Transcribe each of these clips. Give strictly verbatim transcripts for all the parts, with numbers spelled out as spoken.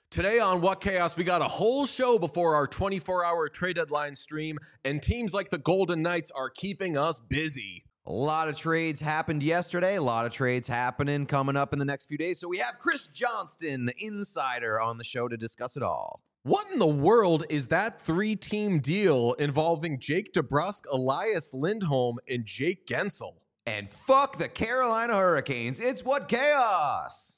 Today on What Chaos, we got a whole show before our twenty-four hour trade deadline stream, and teams like the Golden Knights are keeping us busy. A lot of trades happened yesterday. A lot of trades happening coming up in the next few days. So we have Chris Johnston, insider, on the show to discuss it all. What in the world is that three-team deal involving Jake DeBrusk, Elias Lindholm, and Jake Gensel? And fuck the Carolina Hurricanes. It's What Chaos.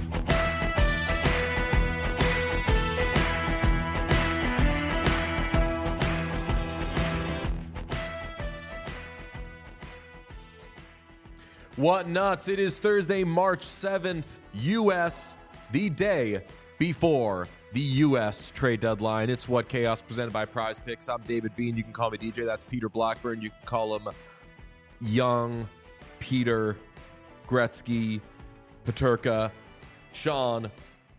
What nuts? It is Thursday, March seventh, U S, the day before the U S trade deadline. It's What Chaos, presented by Prize Picks. I'm David Bean. You can call me D J. That's Peter Blackburn. You can call him Young Peter Gretzky Peterka Sean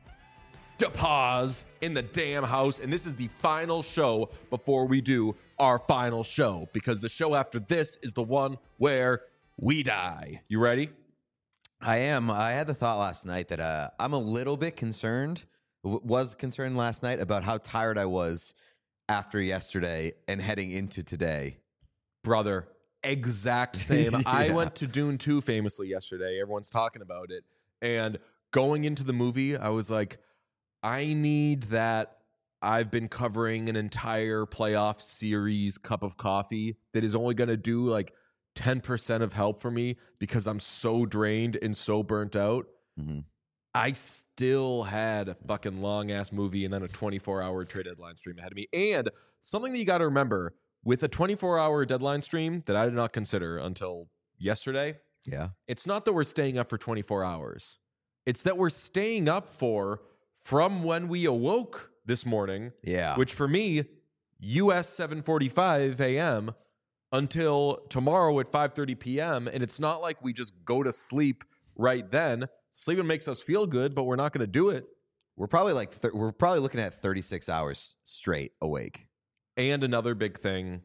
DePaz in the damn house. And this is the final show before we do our final show, because the show after this is the one where we die. You ready? I am. I had the thought last night that uh, I'm a little bit concerned, w- was concerned last night about how tired I was after yesterday and heading into today. Brother, exact same. Yeah. I went to Dune two famously yesterday. Everyone's talking about it. And going into the movie, I was like, I need that. I've been covering an entire playoff series cup of coffee that is only going to do like ten percent of help for me because I'm so drained and so burnt out. Mm-hmm. I still had a fucking long ass movie and then a twenty-four hour trade deadline stream ahead of me. And something that you got to remember with a twenty-four hour deadline stream that I did not consider until yesterday. Yeah. It's not that we're staying up for twenty-four hours. It's that we're staying up for from when we awoke this morning. Yeah. Which for me, U S seven forty-five a.m. until tomorrow at five thirty p.m. And it's not like we just go to sleep right then. Sleeping makes us feel good, but we're not going to do it. We're probably like th- we're probably looking at thirty-six hours straight awake. And another big thing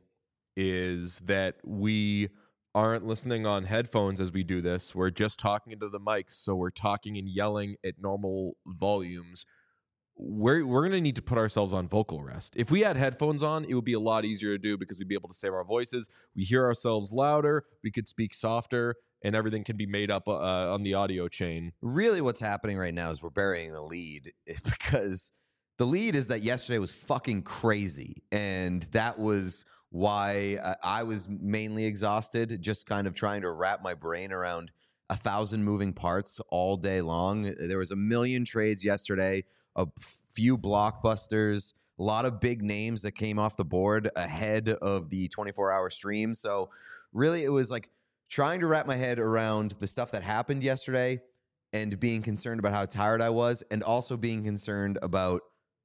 is that we aren't listening on headphones as we do this. We're just talking into the mics, so we're talking and yelling at normal volumes. We're we're going to need to put ourselves on vocal rest. If we had headphones on, it would be a lot easier to do because we'd be able to save our voices. We hear ourselves louder. We could speak softer, and everything can be made up uh, on the audio chain. Really what's happening right now is we're burying the lead because the lead is that yesterday was fucking crazy. And that was why I, I was mainly exhausted, just kind of trying to wrap my brain around a thousand moving parts all day long. There was a million trades yesterday, a few blockbusters, a lot of big names that came off the board ahead of the twenty-four hour stream. So really it was like trying to wrap my head around the stuff that happened yesterday and being concerned about how tired I was, and also being concerned about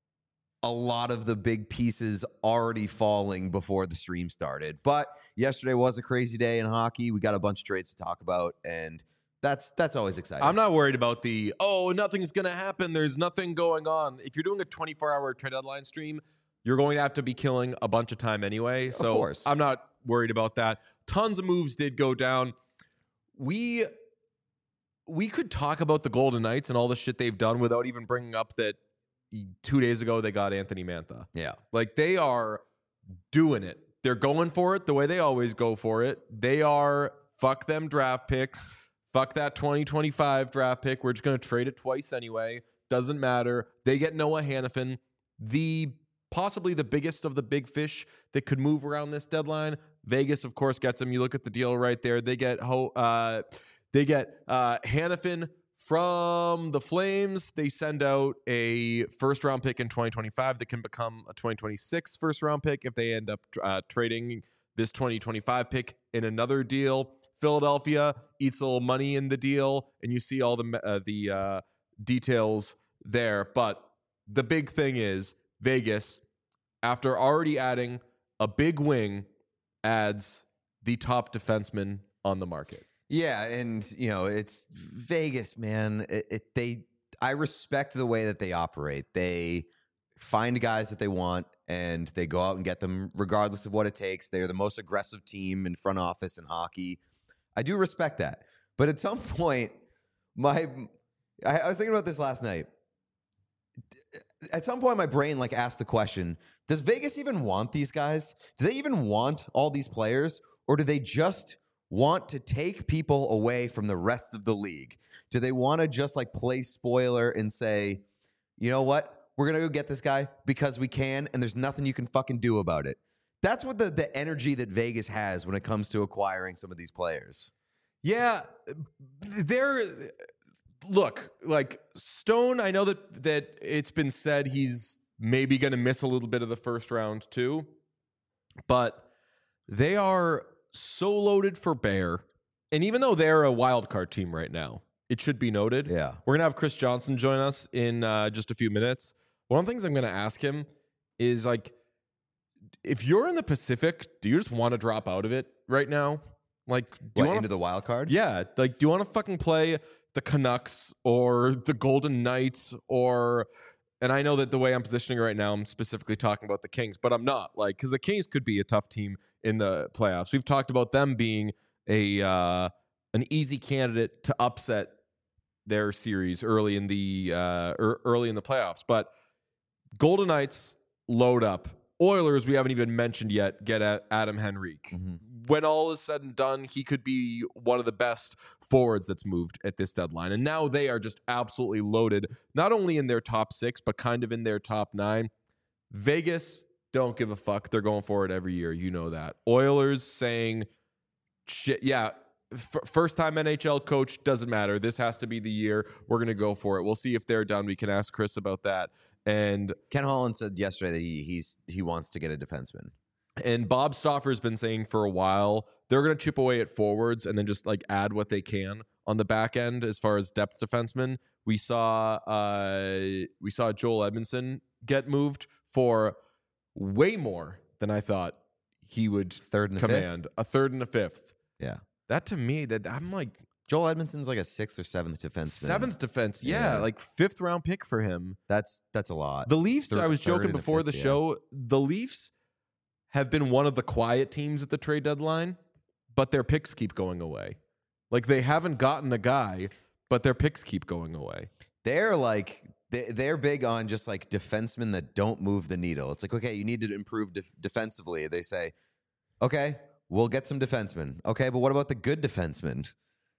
a lot of the big pieces already falling before the stream started. But yesterday was a crazy day in hockey. We got a bunch of trades to talk about, and That's that's always exciting. I'm not worried about the, oh, nothing's going to happen. There's nothing going on. If you're doing a twenty-four hour trade deadline stream, you're going to have to be killing a bunch of time anyway. So of course. I'm not worried about that. Tons of moves did go down. We we could talk about the Golden Knights and all the shit they've done without even bringing up that two days ago they got Anthony Mantha. Yeah. Like, they are doing it. They're going for it the way they always go for it. They are, fuck them draft picks. Fuck that twenty twenty-five draft pick. We're just going to trade it twice anyway. Doesn't matter. They get Noah Hannafin, the possibly the biggest of the big fish that could move around this deadline. Vegas, of course, gets him. You look at the deal right there. They get Ho, uh, they get uh, Hannafin from the Flames. They send out a first round pick in twenty twenty-five that can become a twenty twenty-six first round pick if they end up uh, trading this twenty twenty-five pick in another deal. Philadelphia eats a little money in the deal, and you see all the uh, the uh, details there. But the big thing is Vegas, after already adding a big wing, adds the top defenseman on the market. Yeah, and you know it's Vegas, man. It, it, they, I respect the way that they operate. They find guys that they want, and they go out and get them regardless of what it takes. They're the most aggressive team in front office in hockey. I do respect that. But at some point, my I, I was thinking about this last night. at some point my brain like asked the question, does Vegas even want these guys? Do they even want all these players? Or do they just want to take people away from the rest of the league? Do they want to just like play spoiler and say, you know what? We're going to go get this guy because we can, and there's nothing you can fucking do about it. That's what the, the energy that Vegas has when it comes to acquiring some of these players. Yeah, they're look like Stone. I know that that it's been said he's maybe going to miss a little bit of the first round too, but they are so loaded for Bear, and even though they're a wild card team right now, it should be noted. Yeah, we're gonna have Chris Johnson join us in uh, just a few minutes. One of the things I'm gonna ask him is like, if you're in the Pacific, do you just want to drop out of it right now? Like, do what, you want into the wild card? Yeah, like, do you want to fucking play the Canucks or the Golden Knights or? And I know that the way I'm positioning right now, I'm specifically talking about the Kings, but I'm not, like, because the Kings could be a tough team in the playoffs. We've talked about them being a uh, an easy candidate to upset their series early in the uh, er, early in the playoffs. But Golden Knights load up. Oilers, we haven't even mentioned yet, get at Adam Henrique. Mm-hmm. When all is said and done, he could be one of the best forwards that's moved at this deadline. And now they are just absolutely loaded, not only in their top six, but kind of in their top nine. Vegas don't give a fuck. They're going for it every year. You know that. Oilers saying, shit, yeah, f- first time N H L coach, doesn't matter. This has to be the year. We're going to go for it. We'll see if they're done. We can ask Chris about that. And Ken Holland said yesterday that he he's he wants to get a defenseman. And Bob Stauffer's been saying for a while they're going to chip away at forwards and then just like add what they can on the back end as far as depth defensemen. We saw uh, we saw Joel Edmondson get moved for way more than I thought he would third and command. A, a third and a fifth. Yeah, that to me, that I'm like Joel Edmondson's like a sixth or seventh defenseman. Seventh defense, yeah, yeah, like fifth round pick for him. That's that's a lot. The Leafs. Third, I was joking before fifth, the yeah. show. The Leafs have been one of the quiet teams at the trade deadline, but their picks keep going away. Like they haven't gotten a guy, but their picks keep going away. They're like they're big on just like defensemen that don't move the needle. It's like, okay, you need to improve def- defensively. They say, okay, we'll get some defensemen. Okay, but what about the good defensemen?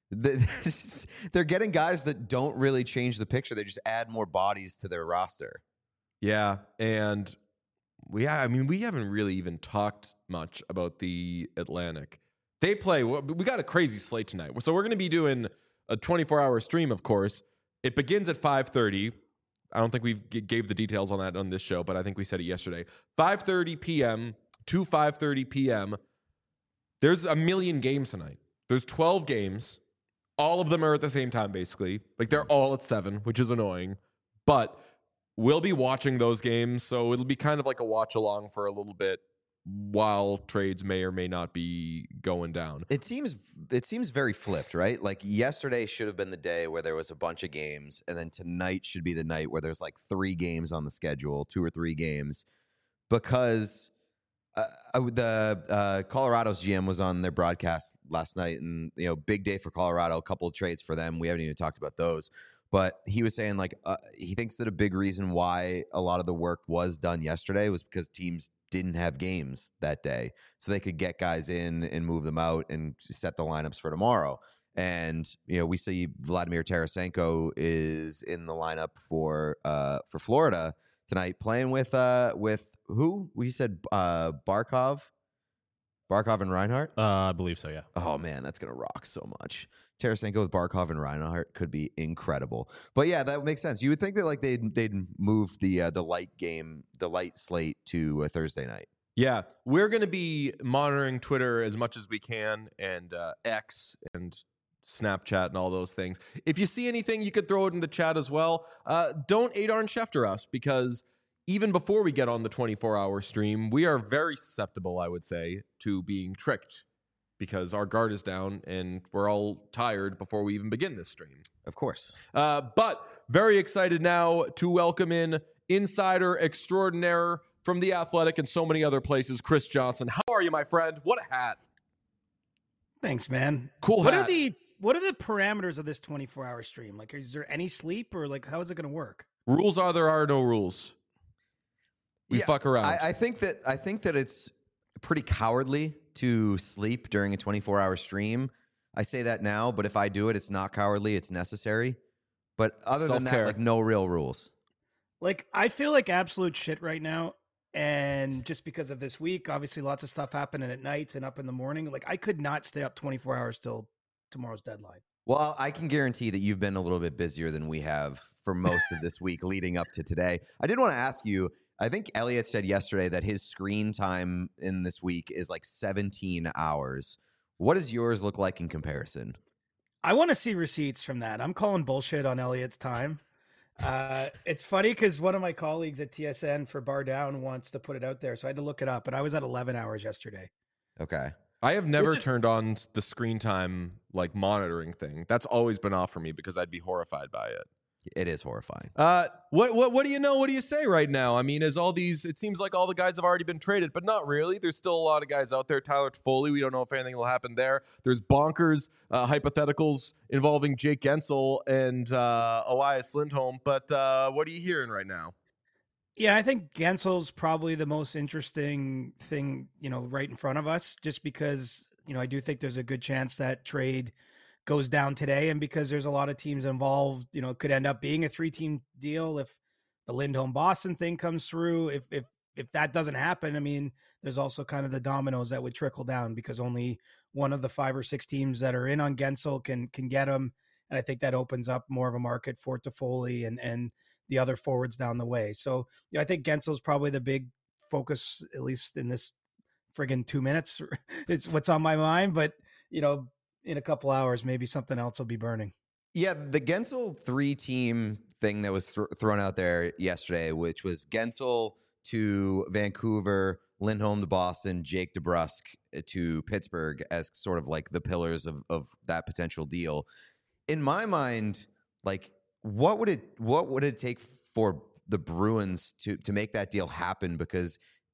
They're getting guys that don't really change the picture. They just add more bodies to their roster. Yeah, and we I mean we haven't really even talked much about the Atlantic. They play we got a crazy slate tonight. So we're going to be doing a twenty-four hour stream, of course. It begins at five thirty. I don't think we gave the details on that on this show, but I think we said it yesterday. five thirty p.m. to five thirty p.m. There's a million games tonight. There's twelve games. All of them are at the same time, basically. Like, they're all at seven, which is annoying. But we'll be watching those games, so it'll be kind of like a watch-along for a little bit while trades may or may not be going down. It seems it seems very flipped, right? Like, yesterday should have been the day where there was a bunch of games, and then tonight should be the night where there's, like, three games on the schedule, two or three games, because Uh, the uh, Colorado's G M was on their broadcast last night, and you know, big day for Colorado. A couple of trades for them. We haven't even talked about those, but he was saying like uh, he thinks that a big reason why a lot of the work was done yesterday was because teams didn't have games that day, so they could get guys in and move them out and set the lineups for tomorrow. And you know, we see Vladimir Tarasenko is in the lineup for uh, for Florida tonight, playing with uh, with. Who? We said uh, Barkov? Barkov and Reinhart? Uh, I believe so, yeah. Oh, man, that's going to rock so much. Tarasenko with Barkov and Reinhart could be incredible. But, yeah, that makes sense. You would think that like they'd, they'd move the uh, the light game, the light slate to a Thursday night. Yeah, we're going to be monitoring Twitter as much as we can, and uh, X and Snapchat and all those things. If you see anything, you could throw it in the chat as well. Uh, don't Adar Schefter us, because even before we get on the twenty-four hour stream, we are very susceptible, I would say, to being tricked because our guard is down and we're all tired before we even begin this stream. Of course. Uh, but very excited now to welcome in insider extraordinaire from The Athletic and so many other places, Chris Johnson. How are you, my friend? What a hat. Thanks, man. Cool what hat. Are the, what are the parameters of this twenty-four hour stream? Like, is there any sleep or like, how is it going to work? Rules are there are no rules. We Yeah, fuck around. I, I think that I think that it's pretty cowardly to sleep during a twenty-four hour stream. I say that now, but if I do it, it's not cowardly. It's necessary. But other than that, Self-care. like no real rules. Like, I feel like absolute shit right now. And just because of this week, obviously lots of stuff happening at nights and up in the morning. Like, I could not stay up twenty-four hours till tomorrow's deadline. Well, I can guarantee that you've been a little bit busier than we have for most of this week leading up to today. I did want to ask you, I think Elliot said yesterday that his screen time in this week is like seventeen hours. What does yours look like in comparison? I want to see receipts from that. I'm calling bullshit on Elliot's time. Uh, it's funny because one of my colleagues at T S N for Bar Down wants to put it out there. So I had to look it up, and I was at eleven hours yesterday. Okay. I have never Which is- turned on the screen time like monitoring thing. That's always been off for me because I'd be horrified by it. It is horrifying. Uh, what what what do you know? What do you say right now? I mean, as all these, it seems like all the guys have already been traded, but not really. There's still a lot of guys out there. Tyler Toffoli, we don't know if anything will happen there. There's bonkers uh, hypotheticals involving Jake Gensel and uh, Elias Lindholm. But uh, what are you hearing right now? Yeah, I think Gensel's probably the most interesting thing, you know, right in front of us, just because, you know, I do think there's a good chance that trade goes down today. And because there's a lot of teams involved, you know, it could end up being a three team deal if the Lindholm Boston thing comes through. If, if, if that doesn't happen, I mean, there's also kind of the dominoes that would trickle down because only one of the five or six teams that are in on Gensel can, can get him. And I think that opens up more of a market for Toffoli and, and the other forwards down the way. So, yeah, I think Gensel's probably the big focus, at least in this friggin' two minutes. It's what's on my mind, but you know, in a couple hours, maybe something else will be burning. Yeah, the Gensel three-team thing that was th- thrown out there yesterday, which was Gensel to Vancouver, Lindholm to Boston, Jake DeBrusk to Pittsburgh as sort of like the pillars of, of that potential deal. In my mind, like, what would it what would it take for the Bruins to to make that deal happen? Because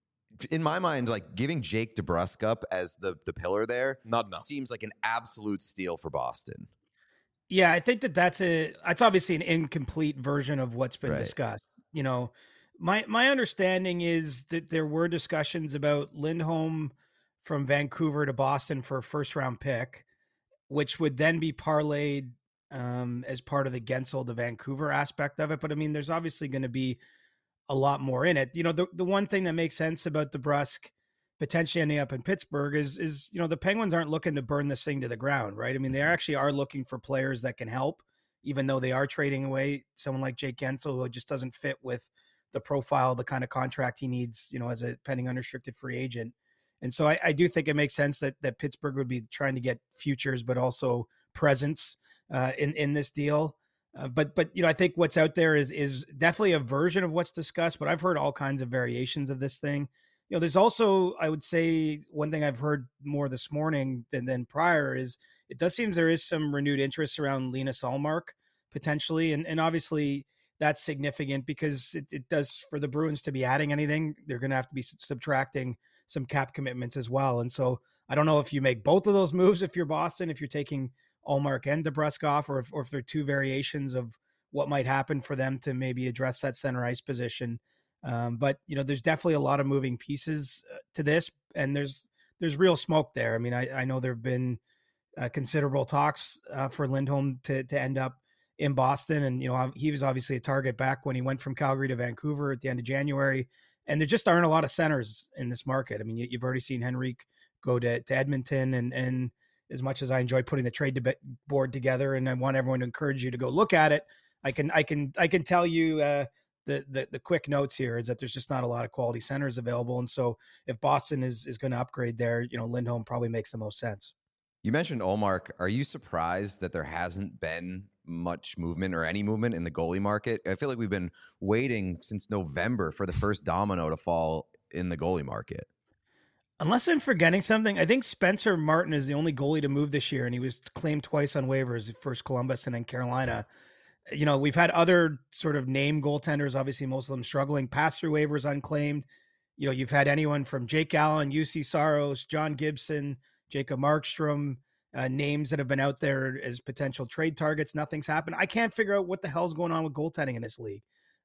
in my mind, like giving Jake DeBrusk up as the the pillar there Not enough. seems like an absolute steal for Boston. Yeah, I think that that's a that's obviously an incomplete version of what's been Right. discussed. You know, my my understanding is that there were discussions about Lindholm from Vancouver to Boston for a first round pick, which would then be parlayed um, as part of the Gensel to Vancouver aspect of it. But I mean, there's obviously going to be a lot more in it. You know, the, the one thing that makes sense about DeBrusk potentially ending up in Pittsburgh is, is, you know, the Penguins aren't looking to burn this thing to the ground, right? I mean, they actually are looking for players that can help, even though they are trading away someone like Jake Gensel, who just doesn't fit with the profile, the kind of contract he needs, you know, as a pending unrestricted free agent. And so I, I do think it makes sense that that Pittsburgh would be trying to get futures, but also presence uh, in, in this deal. Uh, but but you know, I think what's out there is is definitely a version of what's discussed. But I've heard all kinds of variations of this thing. You know, there's also, I would say, one thing I've heard more this morning than than prior is it does seem there is some renewed interest around Linus Ullmark potentially, and and obviously that's significant because it, it does for the Bruins to be adding anything, they're going to have to be subtracting some cap commitments as well. And so I don't know if you make both of those moves if you're Boston, if you're taking Ullmark and DeBrusk off, or if, or if they're two variations of what might happen for them to maybe address that center ice position. Um, but, you know, there's definitely a lot of moving pieces to this, and there's there's real smoke there. I mean, I, I know there have been uh, considerable talks uh, for Lindholm to to end up in Boston. And, you know, he was obviously a target back when he went from Calgary to Vancouver at the end of January. And there just aren't a lot of centers in this market. I mean, you, you've already seen Henrique go to, to Edmonton, and and as much as I enjoy putting the trade deb- board together, and I want everyone to encourage you to go look at it, I can I can I can tell you uh, the, the the quick notes here is that there's just not a lot of quality centers available, and so if Boston is is going to upgrade there, you know, Lindholm probably makes the most sense. You mentioned Ullmark. Are you surprised that there hasn't been much movement or any movement in the goalie market? I feel like we've been waiting since November for the first domino to fall in the goalie market. Unless I'm forgetting something, I think Spencer Martin is the only goalie to move this year, and he was claimed twice on waivers, first Columbus and then Carolina. You know, we've had other sort of name goaltenders, obviously most of them struggling, pass through waivers unclaimed. You know, you've had anyone from Jake Allen, U C Saros, John Gibson, Jacob Markstrom, uh, names that have been out there as potential trade targets. Nothing's happened. I can't figure out what the hell's going on with goaltending in this league.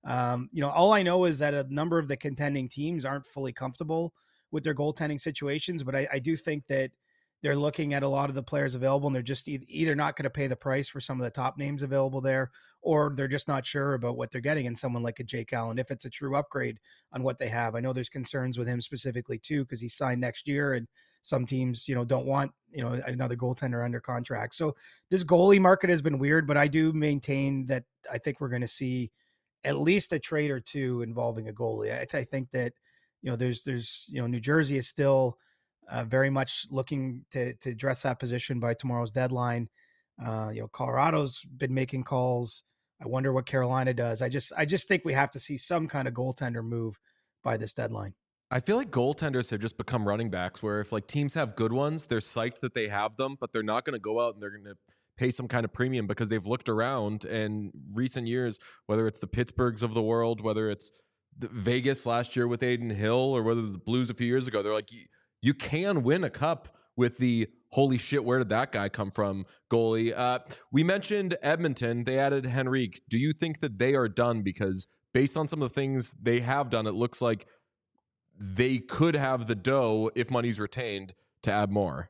Um, you know, all I know is that a number of the contending teams aren't fully comfortable with their goaltending situations, but I, I do think that they're looking at a lot of the players available, and they're just e- either not going to pay the price for some of the top names available there, or they're just not sure about what they're getting in someone like a Jake Allen, if it's a true upgrade on what they have. I know there's concerns with him specifically too, because he's signed next year, and some teams, you know, don't want, you know, another goaltender under contract. So this goalie market has been weird, but I do maintain that I think we're going to see at least a trade or two involving a goalie. I, I think that, you know, there's, there's, you know, New Jersey is still uh, very much looking to, to address that position by tomorrow's deadline. Uh, you know, Colorado's been making calls. I wonder what Carolina does. I just, I just think we have to see some kind of goaltender move by this deadline. I feel like goaltenders have just become running backs, where if like teams have good ones, they're psyched that they have them, but they're not going to go out and they're going to pay some kind of premium because they've looked around in recent years, whether it's the Pittsburghs of the world, whether it's the Vegas last year with Aiden Hill, or whether the Blues a few years ago. They're like, you can win a cup with the holy shit, where did that guy come from goalie. Uh, we mentioned Edmonton. They added Henrique. Do you think that they are done? Because based on some of the things they have done, it looks like they could have the dough, if money's retained, to add more.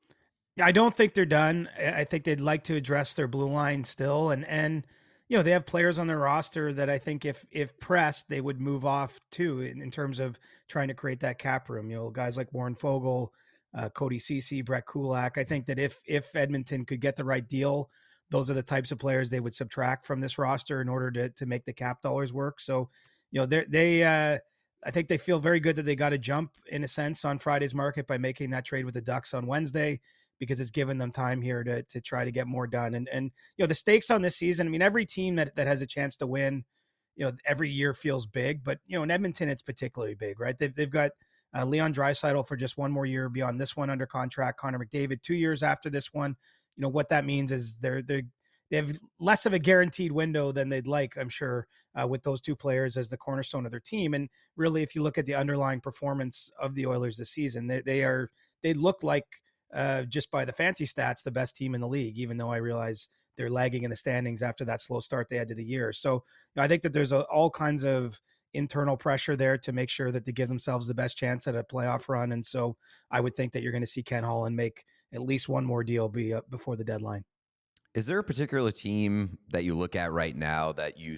I don't think they're done. I think they'd like to address their blue line still. And, and, you know, they have players on their roster that I think if, if pressed, they would move off too, in, in terms of trying to create that cap room. You know, guys like Warren Fogle, uh, Cody Ceci, Brett Kulak. I think that if, if Edmonton could get the right deal, those are the types of players they would subtract from this roster in order to, to make the cap dollars work. So, you know, they they, uh, I think they feel very good that they got a jump in a sense on Friday's market by making that trade with the Ducks on Wednesday, because it's given them time here to to try to get more done. And, and, you know, the stakes on this season, I mean, every team that, that has a chance to win, you know, every year feels big, but, you know, in Edmonton, it's particularly big, right? They've, they've got uh, Leon Draisaitl for just one more year beyond this one under contract, Connor McDavid two years after this one. You know, what that means is they're, they're, they have less of a guaranteed window than they'd like, I'm sure, uh, with those two players as the cornerstone of their team. And really, if you look at the underlying performance of the Oilers this season, they, they are, they look like, uh, just by the fancy stats, the best team in the league, even though I realize they're lagging in the standings after that slow start they had to the year. So, you know, I think that there's a, all kinds of internal pressure there to make sure that they give themselves the best chance at a playoff run. And so I would think that you're going to see Ken Holland make at least one more deal be, uh, before the deadline. Is there a particular team that you look at right now that you,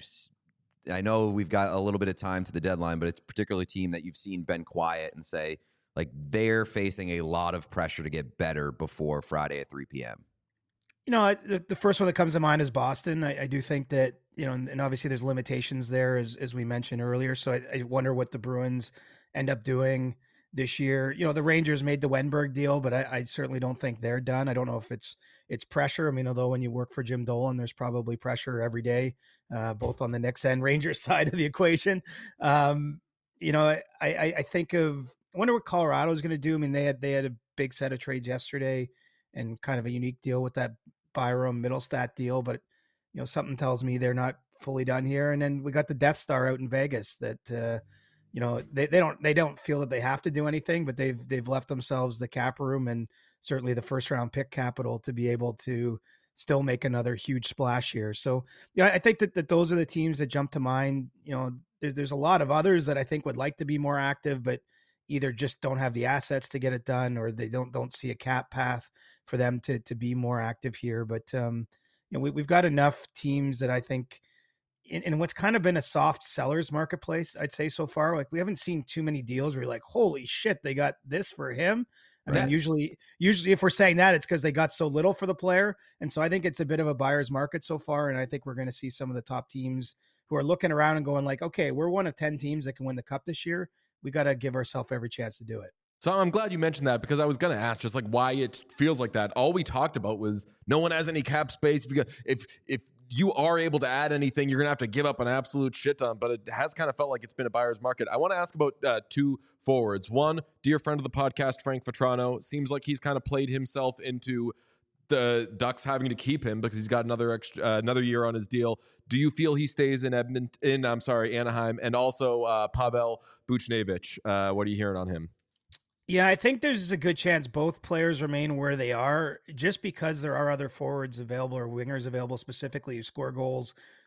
I know we've got a little bit of time to the deadline, but it's a particular team that you've seen been quiet and say, like, they're facing a lot of pressure to get better before Friday at three p.m.? You know, the, the first one that comes to mind is Boston. I, I do think that, you know, and, and obviously there's limitations there, as, as we mentioned earlier. So I, I wonder what the Bruins end up doing this year. You know, the Rangers made the Wenberg deal, but I, I certainly don't think they're done. I don't know if it's it's pressure. I mean, although when you work for Jim Dolan, there's probably pressure every day, uh, both on the Knicks and Rangers side of the equation. Um, you know, I, I, I think of, I wonder what Colorado is going to do. I mean, they had they had a big set of trades yesterday and kind of a unique deal with that Byram Middlestat deal, but, you know, something tells me they're not fully done here. And then we got the Death Star out in Vegas that, uh, you know, they, they don't, they don't feel that they have to do anything, but they've, they've left themselves the cap room and certainly the first round pick capital to be able to still make another huge splash here. So, yeah, I think that, that those are the teams that jump to mind. You know, there's, there's a lot of others that I think would like to be more active, but either just don't have the assets to get it done, or they don't, don't see a cap path for them to, to be more active here. But, um, you know, we, we've got enough teams that I think, in, in what's kind of been a soft sellers marketplace, I'd say so far, like we haven't seen too many deals where you're like, holy shit, they got this for him. I mean, usually, usually if we're saying that, it's because they got so little for the player. And so I think it's a bit of a buyer's market so far. And I think we're going to see some of the top teams who are looking around and going like, okay, we're one of ten teams that can win the cup this year. We got to give ourselves every chance to do it. So I'm glad you mentioned that, because I was going to ask just like why it feels like that. All we talked about was no one has any cap space. If you, if, if you are able to add anything, you're going to have to give up an absolute shit ton, but it has kind of felt like it's been a buyer's market. I want to ask about uh, two forwards. One, dear friend of the podcast, Frank Vetrano, seems like he's kind of played himself into the Ducks having to keep him because he's got another extra, uh, another year on his deal. Do you feel he stays in Edmonton, in, I'm sorry, Anaheim? And also uh, Pavel Buchnevich, uh, what are you hearing on him? Yeah, I think there's a good chance both players remain where they are, just because there are other forwards available or wingers available specifically who score goals,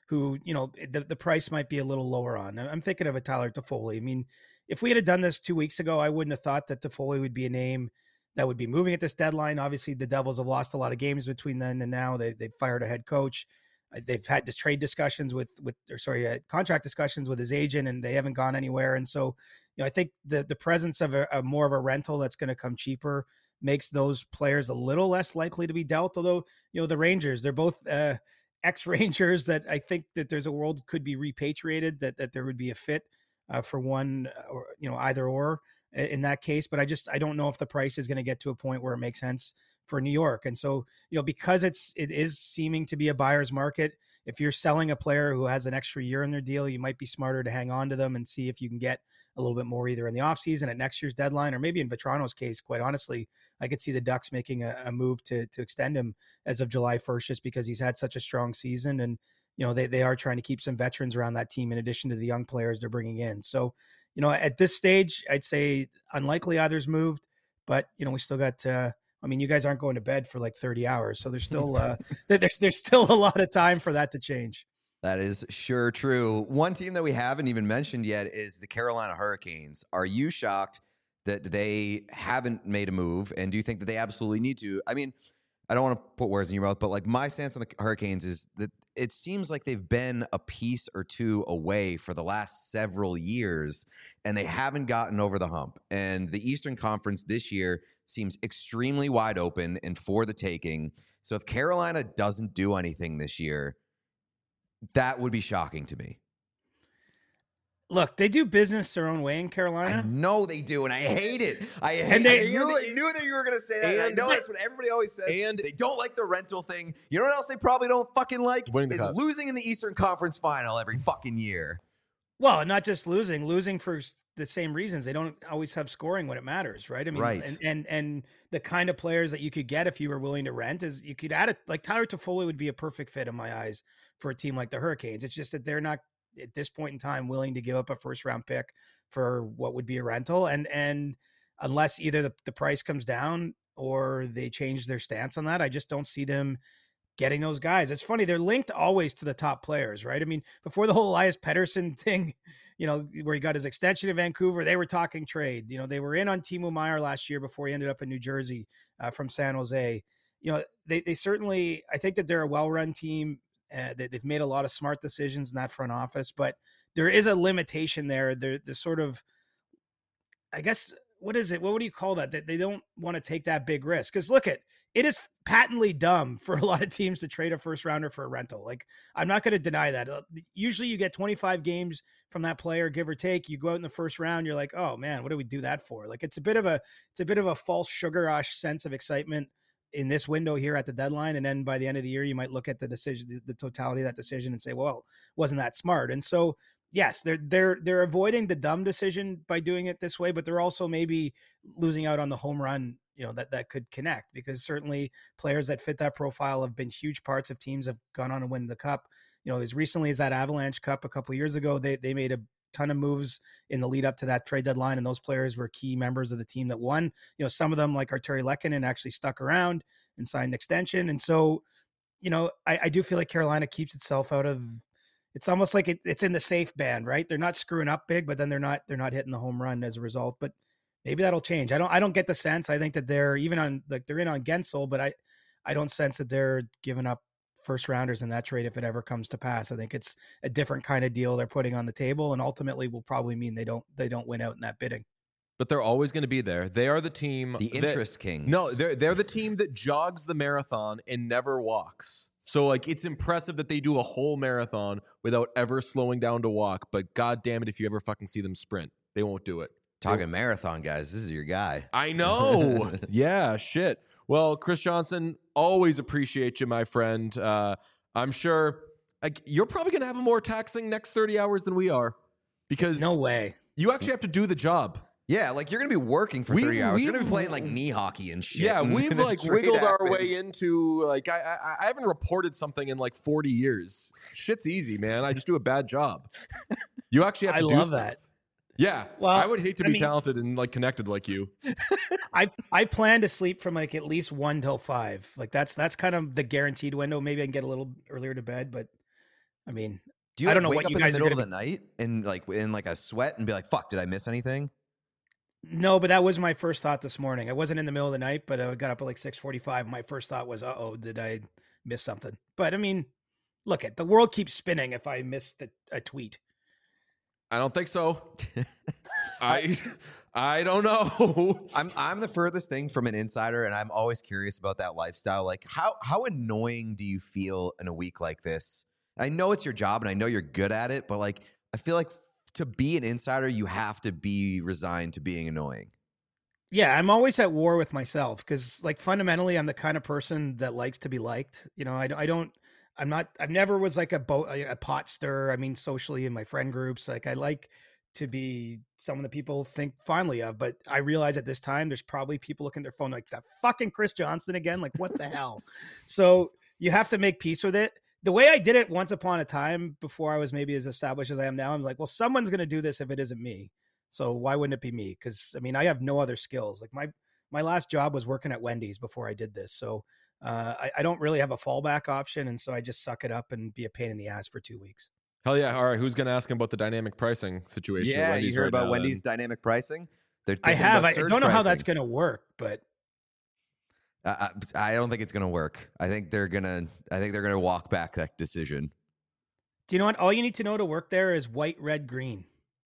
who, you know, the, the price might be a little lower on. I'm thinking of a Tyler Toffoli. I mean, if we had done this two weeks ago, I wouldn't have thought that Toffoli would be a name that would be moving at this deadline. Obviously, the Devils have lost a lot of games between then and now. They they've fired a head coach. They've had this trade discussions with with or sorry, uh, contract discussions with his agent, and they haven't gone anywhere. And so, you know, I think the the presence of a, a more of a rental that's going to come cheaper makes those players a little less likely to be dealt. Although, you know, the Rangers, they're both uh, ex-Rangers that I think that there's a world could be repatriated, that that there would be a fit uh, for one or, you know, either or in that case. But I just, I don't know if the price is going to get to a point where it makes sense for New York. And so, you know, because it's, it is seeming to be a buyer's market, if you're selling a player who has an extra year in their deal, you might be smarter to hang on to them and see if you can get a little bit more either in the offseason at next year's deadline, or maybe in Vetrano's case, quite honestly, I could see the Ducks making a, a move to to extend him as of July first, just because he's had such a strong season. And, you know, they, they are trying to keep some veterans around that team in addition to the young players they're bringing in. So, you know, at this stage, I'd say unlikely either's moved, but, you know, we still got, uh, I mean, you guys aren't going to bed for like thirty hours. So there's still, uh, there's, there's still a lot of time for that to change. That is sure true. One team that we haven't even mentioned yet is the Carolina Hurricanes. Are you shocked that they haven't made a move? And do you think that they absolutely need to? I mean, I don't want to put words in your mouth, but like my stance on the Hurricanes is that it seems like they've been a piece or two away for the last several years, and they haven't gotten over the hump. And the Eastern Conference this year seems extremely wide open and for the taking. So if Carolina doesn't do anything this year, that would be shocking to me. Look, they do business their own way in Carolina. I know they do, and I hate it. I hate And they- I knew, I knew that you were going to say that. And I And- know that's what everybody always says. and- they don't like the rental thing. You know what else they probably don't fucking like? Winning the is Cup. losing in the Eastern Conference Final every fucking year. Well, not just losing, losing for s- the same reasons. They don't always have scoring when it matters, right? I mean, Right. and, and and the kind of players that you could get if you were willing to rent is you could add it. Like Tyler Toffoli would be a perfect fit in my eyes for a team like the Hurricanes. It's just that they're not at this point in time willing to give up a first round pick for what would be a rental, and and unless either the, the price comes down or they change their stance on that, I just don't see them getting those guys. It's funny, they're linked always to the top players, right? I mean, before the whole Elias Pettersson thing, you know, where he got his extension in Vancouver, they were talking trade. You know, they were in on Timo Meier last year before he ended up in New Jersey uh, from San Jose. You know, they they certainly, I think that they're a well-run team. Uh, they, they've made a lot of smart decisions in that front office, but there is a limitation there. They're the sort of, I guess, what is it? What would you call that? That they don't want to take that big risk. Because look at, it is patently dumb for a lot of teams to trade a first rounder for a rental. Like, I'm not going to deny that. Uh, Usually you get twenty-five games from that player, give or take. You go out in the first round, you're like, oh man, what do we do that for? Like, it's a bit of a, it's a bit of a false sugar rush sense of excitement in this window here at the deadline. And then by the end of the year, you might look at the decision, the, the totality of that decision and say, well, wasn't that smart? And so, yes, they're, they're, they're avoiding the dumb decision by doing it this way, but they're also maybe losing out on the home run, you know, that, that could connect, because certainly players that fit that profile have been huge parts of teams that have gone on to win the cup. You know, as recently as that Avalanche Cup a couple of years ago, they, they made a ton of moves in the lead up to that trade deadline, and those players were key members of the team that won. You know, some of them, like Arturi Lehkonen, actually stuck around and signed an extension. And so, you know, I, I do feel like Carolina keeps itself out of, it's almost like it, it's in the safe band, right? They're not screwing up big, but then they're not, they're not hitting the home run as a result. But maybe that'll change. I don't, I don't get the sense. I think that they're even on, like they're in on Gensel, but I, I don't sense that they're giving up first rounders in that trade if it ever comes to pass. I think it's a different kind of deal they're putting on the table, and ultimately will probably mean they don't, they don't win out in that bidding. But they're always going to be there. They are the team. The that- interest kings. No, they're they're the team that jogs the marathon and never walks. So like, it's impressive that they do a whole marathon without ever slowing down to walk. But god damn it, if you ever fucking see them sprint, they won't do it. Talking marathon, guys. This is your guy. I know. Yeah, shit. Well, Chris Johnson, always appreciate you, my friend. Uh, I'm sure like, you're probably going to have a more taxing next thirty hours than we are, because No way. you actually have to do the job. Yeah, like you're gonna be working for We've- thirty hours. You're gonna be we've- playing like knee hockey and shit. Yeah, and we've the like trade wiggled our way happens. into like I, I I haven't reported something in like forty years. Shit's easy, man. I just do a bad job. You actually have I to do love stuff. that. Yeah, Well, I would hate to I be mean- talented and like connected like you. I I plan to sleep from like at least one till five. Like that's that's kind of the guaranteed window. Maybe I can get a little earlier to bed, but I mean, Do you I like, don't know wake what up you in the guys are middle of gonna the night and like in like a sweat and be like, "Fuck, did I miss anything?" No, but that was my first thought this morning. I wasn't in the middle of the night, but I got up at like six forty-five. My first thought was, "Uh oh, did I miss something?" But I mean, look at the world keeps spinning. If I missed a, a tweet, I don't think so. I I don't know. I'm I'm the furthest thing from an insider, and I'm always curious about that lifestyle. Like, how how annoying do you feel in a week like this? I know it's your job, and I know you're good at it, but like, I feel like f- to be an insider, you have to be resigned to being annoying. yeah, I'm always at war with myself because, like, fundamentally, I'm the kind of person that likes to be liked. You know, I, I don't, I'm not, I've never was like a boat, a, a pot stirrer. I mean, socially in my friend groups, like, I like to be someone that people think fondly of. But I realize at this time, there's probably people looking at their phone like, that fucking Chris Johnson again. Like, what the hell? So you have to make peace with it. The way I did it once upon a time before I was maybe as established as I am now, I'm like, well, someone's going to do this if it isn't me. So why wouldn't it be me? Because I mean, I have no other skills. Like my my last job was working at Wendy's before I did this. So uh, I, I don't really have a fallback option, and so I just suck it up and be a pain in the ass for two weeks. Hell yeah. All right. Who's going to ask him about the dynamic pricing situation? at Yeah, Wendy's you heard right about now, Wendy's then? dynamic pricing? They're I thinking have. about I surge don't know how that's pricing. going to work, but I, I I don't think it's gonna work. I think they're gonna. I think they're gonna walk back that decision. do you know what? All you need to know to work there is white, red, green.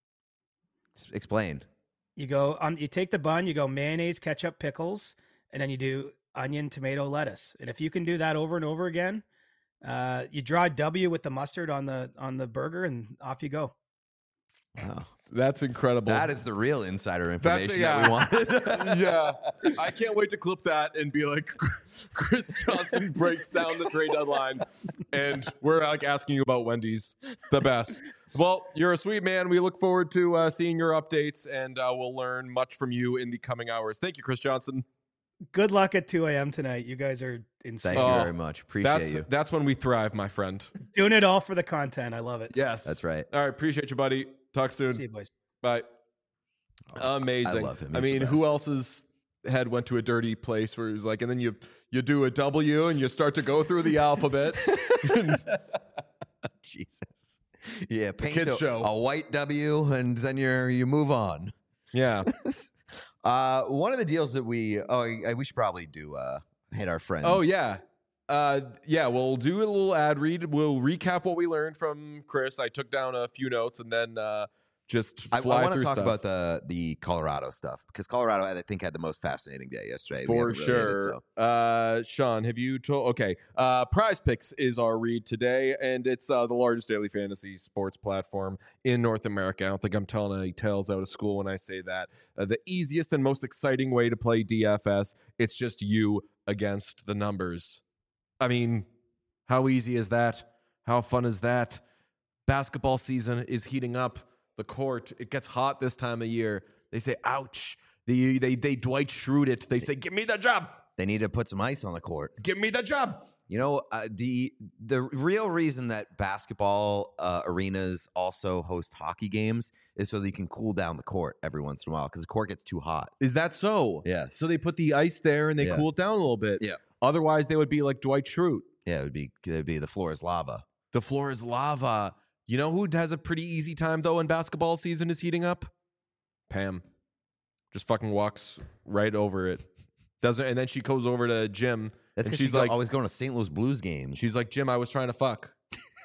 S- Explain. You go on. You take the bun. You go mayonnaise, ketchup, pickles, and then you do onion, tomato, lettuce. And if you can do that over and over again, uh, you draw a W with the mustard on the on the burger, and off you go. Wow. That's incredible. That is the real insider That's- information yeah. that we wanted. Yeah. I can't wait to clip that and be like, Chris Johnson breaks down the trade deadline, and we're like asking you about Wendy's. The best. Well, you're a sweet man. We look forward to uh, seeing your updates, and uh, we'll learn much from you in the coming hours. Thank you, Chris Johnson. Good luck at two a.m. tonight. You guys are insane. Thank you Oh, very much. Appreciate That's you. that's when we thrive, my friend. Doing it all for the content. I love it. Yes. That's right. All right. Appreciate you, buddy. Talk soon. See you, boys. Bye. Amazing. I love him. I He's the mean, who best. else's head went to a dirty place where it was like, and then you you do a W and you start to go through the alphabet. Jesus. Yeah, paint kid's a, show. a white W, and then you're you move on. Yeah. Uh, one of the deals that we oh I- we should probably do uh hit our friends. Oh yeah. Uh, yeah, we'll do a little ad read. We'll recap what we learned from Chris. I took down a few notes and then uh, just I, fly I want to through talk stuff. about the the Colorado stuff because Colorado I think had the most fascinating day yesterday. We For haven't really hit it, sure. so. Uh, Sean, have you told? Okay. Uh, Prize Picks is our read today, and it's uh, the largest daily fantasy sports platform in North America. I don't think I'm telling any tales out of school when I say that. Uh, the easiest and most exciting way to play D F S. It's just you against the numbers. I mean, how easy is that? How fun is that? Basketball season is heating up. The court, it gets hot this time of year. They say, ouch. They, they, they Dwight Schrute it. They say, give me the job. They need to put some ice on the court. Give me the job. You know, uh, the the real reason that basketball uh, arenas also host hockey games is so that you can cool down the court every once in a while because the court gets too hot. Is that so? Yeah. So they put the ice there and they Yeah. cool it down a little bit. Yeah. Otherwise, they would be like Dwight Schrute. Yeah, it would be it would be the floor is lava. The floor is lava. You know who has a pretty easy time, though, when basketball season is heating up? Pam. Just fucking walks right over it. Doesn't, and then she goes over to Jim. That's and because she's she's like, always going to Saint Louis Blues games. she's like, Jim, I was trying to fuck.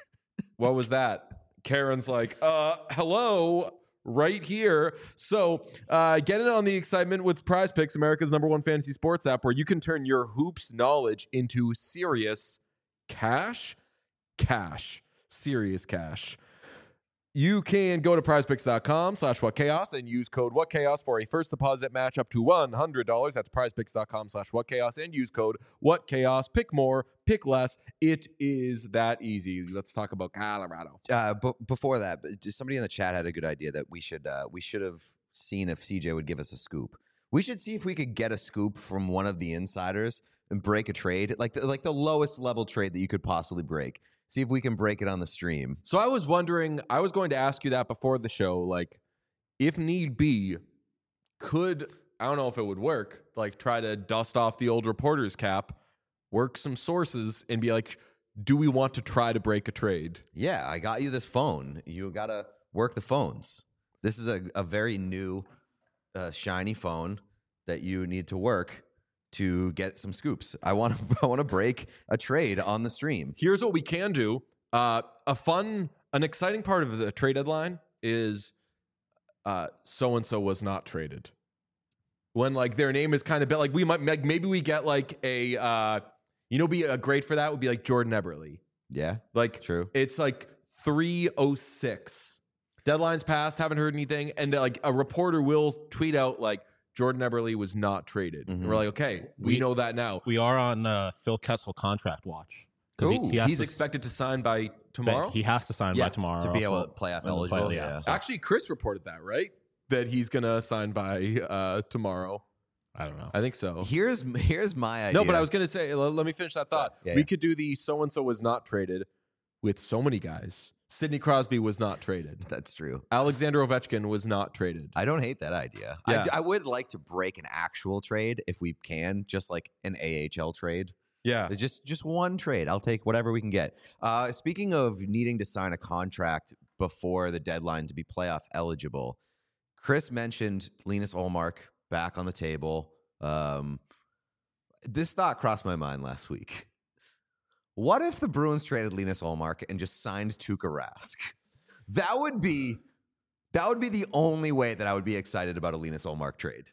What was that? Karen's like, uh, hello, right here. So uh, get in on the excitement with Prize Picks, America's number one fantasy sports app, where you can turn your hoops knowledge into serious cash. Cash. Serious cash. You can go to prizepicks.com slash whatchaos and use code whatchaos for a first deposit match up to one hundred dollars. That's prizepicks.com slash whatchaos and use code whatchaos. Pick more, pick less. It is that easy. Let's talk about Colorado. uh, b- before that, but just somebody in the chat had a good idea that we should uh, we should have seen if C J would give us a scoop. We should see if we could get a scoop from one of the insiders and break a trade, like the, like the lowest level trade that you could possibly break. See if we can break it on the stream. So I was wondering, I was going to ask you that before the show, like, if need be, could, I don't know if it would work, like try to dust off the old reporter's cap, work some sources and be like, do we want to try to break a trade? Yeah, I got you this phone. You got to work the phones. This is a, a very new, uh, shiny phone that you need to work to get some scoops. I want to I want to break a trade on the stream. Here's what we can do. Uh, a fun, an exciting part of the trade deadline is uh, so-and-so was not traded. When like their name is kind of bit like we might like maybe we get like a uh, you know be a great for that would be like Jordan Eberle. Yeah, Like true. It's like three oh six. Deadline's passed, haven't heard anything, and uh, like a reporter will tweet out like Jordan Eberle was not traded. Mhm. And we're like, okay, we, We- know that now. We are on uh, Phil Kessel contract watch. 'Cause Ooh, has He's to, expected to sign by tomorrow. He has to sign Yeah, by tomorrow to be also. able to playoff And the play- eligible. yeah, Yeah. so- Actually, Chris reported that, right? That he's gonna sign by uh, tomorrow. I don't know. I think so. Here's here's my idea. No, but I was gonna say, let, let me finish that thought. Yeah, we yeah. could do the so and so was not traded with so many guys. Sidney Crosby was not traded. That's true. Alexander Ovechkin was not traded. I don't hate that idea. Yeah. I, I would like to break an actual trade if we can, just like an A H L trade. Yeah. It's just just one trade. I'll take whatever we can get. Uh, speaking of needing to sign a contract before the deadline to be playoff eligible, Chris mentioned Linus Ullmark back on the table. Um, this thought crossed my mind last week. What if the Bruins traded Linus Ullmark and just signed Tuukka Rask? That would be that would be the only way that I would be excited about a Linus Ullmark trade.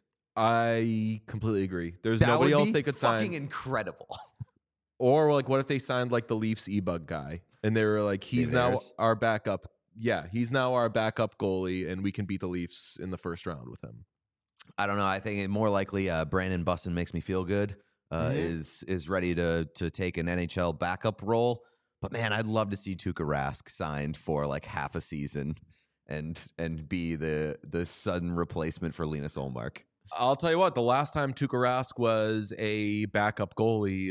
I completely agree. There's That nobody would else be they could fucking sign. incredible. Or like, what if they signed like the Leafs e-bug guy, and they were like, he's David now Ayres? our backup. Yeah, he's now our backup goalie, and we can beat the Leafs in the first round with him. I don't know. I think it more likely uh, Brandon Bussin makes me feel good. Uh, Mhm. Is is ready to to take an N H L backup role. But man, I'd love to see Tuukka Rask signed for like half a season and and be the the sudden replacement for Linus Ullmark. I'll tell you what, the last time Tuukka Rask was a backup goalie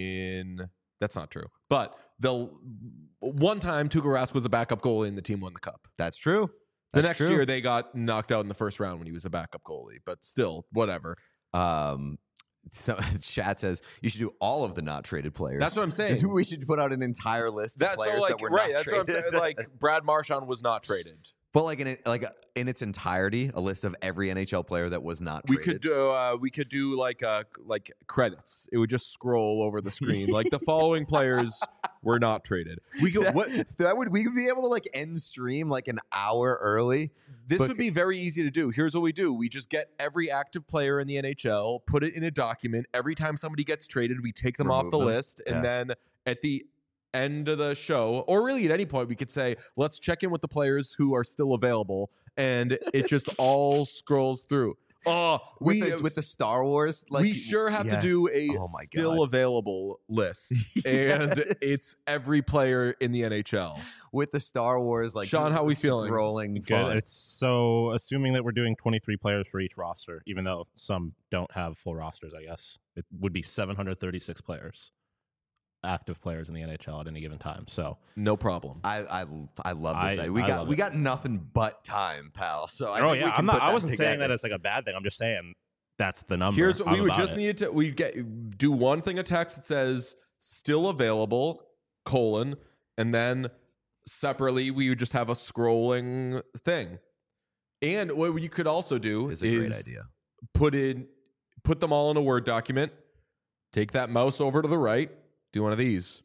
in that's not true. But the one time Tuukka Rask was a backup goalie and the team won the cup. That's true. The That's next true. year they got knocked out in the first round when he was a backup goalie, but still, whatever. Um, so Chat says you should do all of the not traded players. That's what I'm saying. We should put out an entire list of That's players so like that were right. not That's what I'm traded. saying. Like Brad Marchand was not traded. But like in it, like in its entirety, a list of every N H L player that was not We traded. could do uh, we could do like uh like credits. It would just scroll over the screen. Like the following players were not traded. We could that, what that would we would be able to like end stream like an hour early. this But- would be very easy to do. Here's what we do. We just get every active player in the N H L, put it in a document. Every time somebody gets traded, we take them off Remove the them. list. And Yeah. then at the end of the show, or really at any point, we could say, let's check in with the players who are still available. And it just all scrolls through. Oh, With, we the, with the Star Wars, like we sure have yes. to do a Oh my still God. available list. And Yes. it's every player in the N H L. with the Star Wars, like Sean, how we feeling? Scrolling Good. font. It's so assuming that we're doing twenty-three players for each roster, even though some don't have full rosters, I guess it would be seven hundred thirty-six players, active players in the N H L at any given time. So No problem. I I I love this. I- idea. we I got love we it. got nothing but time, pal. So I oh think we yeah, can I'm not. put I that wasn't saying that together. as like a bad thing. I'm just saying that's the number. Here's what I'm we would about just it. need to we get do one thing of text that says still available, colon, and then separately we would just have a scrolling thing. And what you could also do It's is a great idea. put in put them all in a Word document, take that mouse over to the right, do one of these.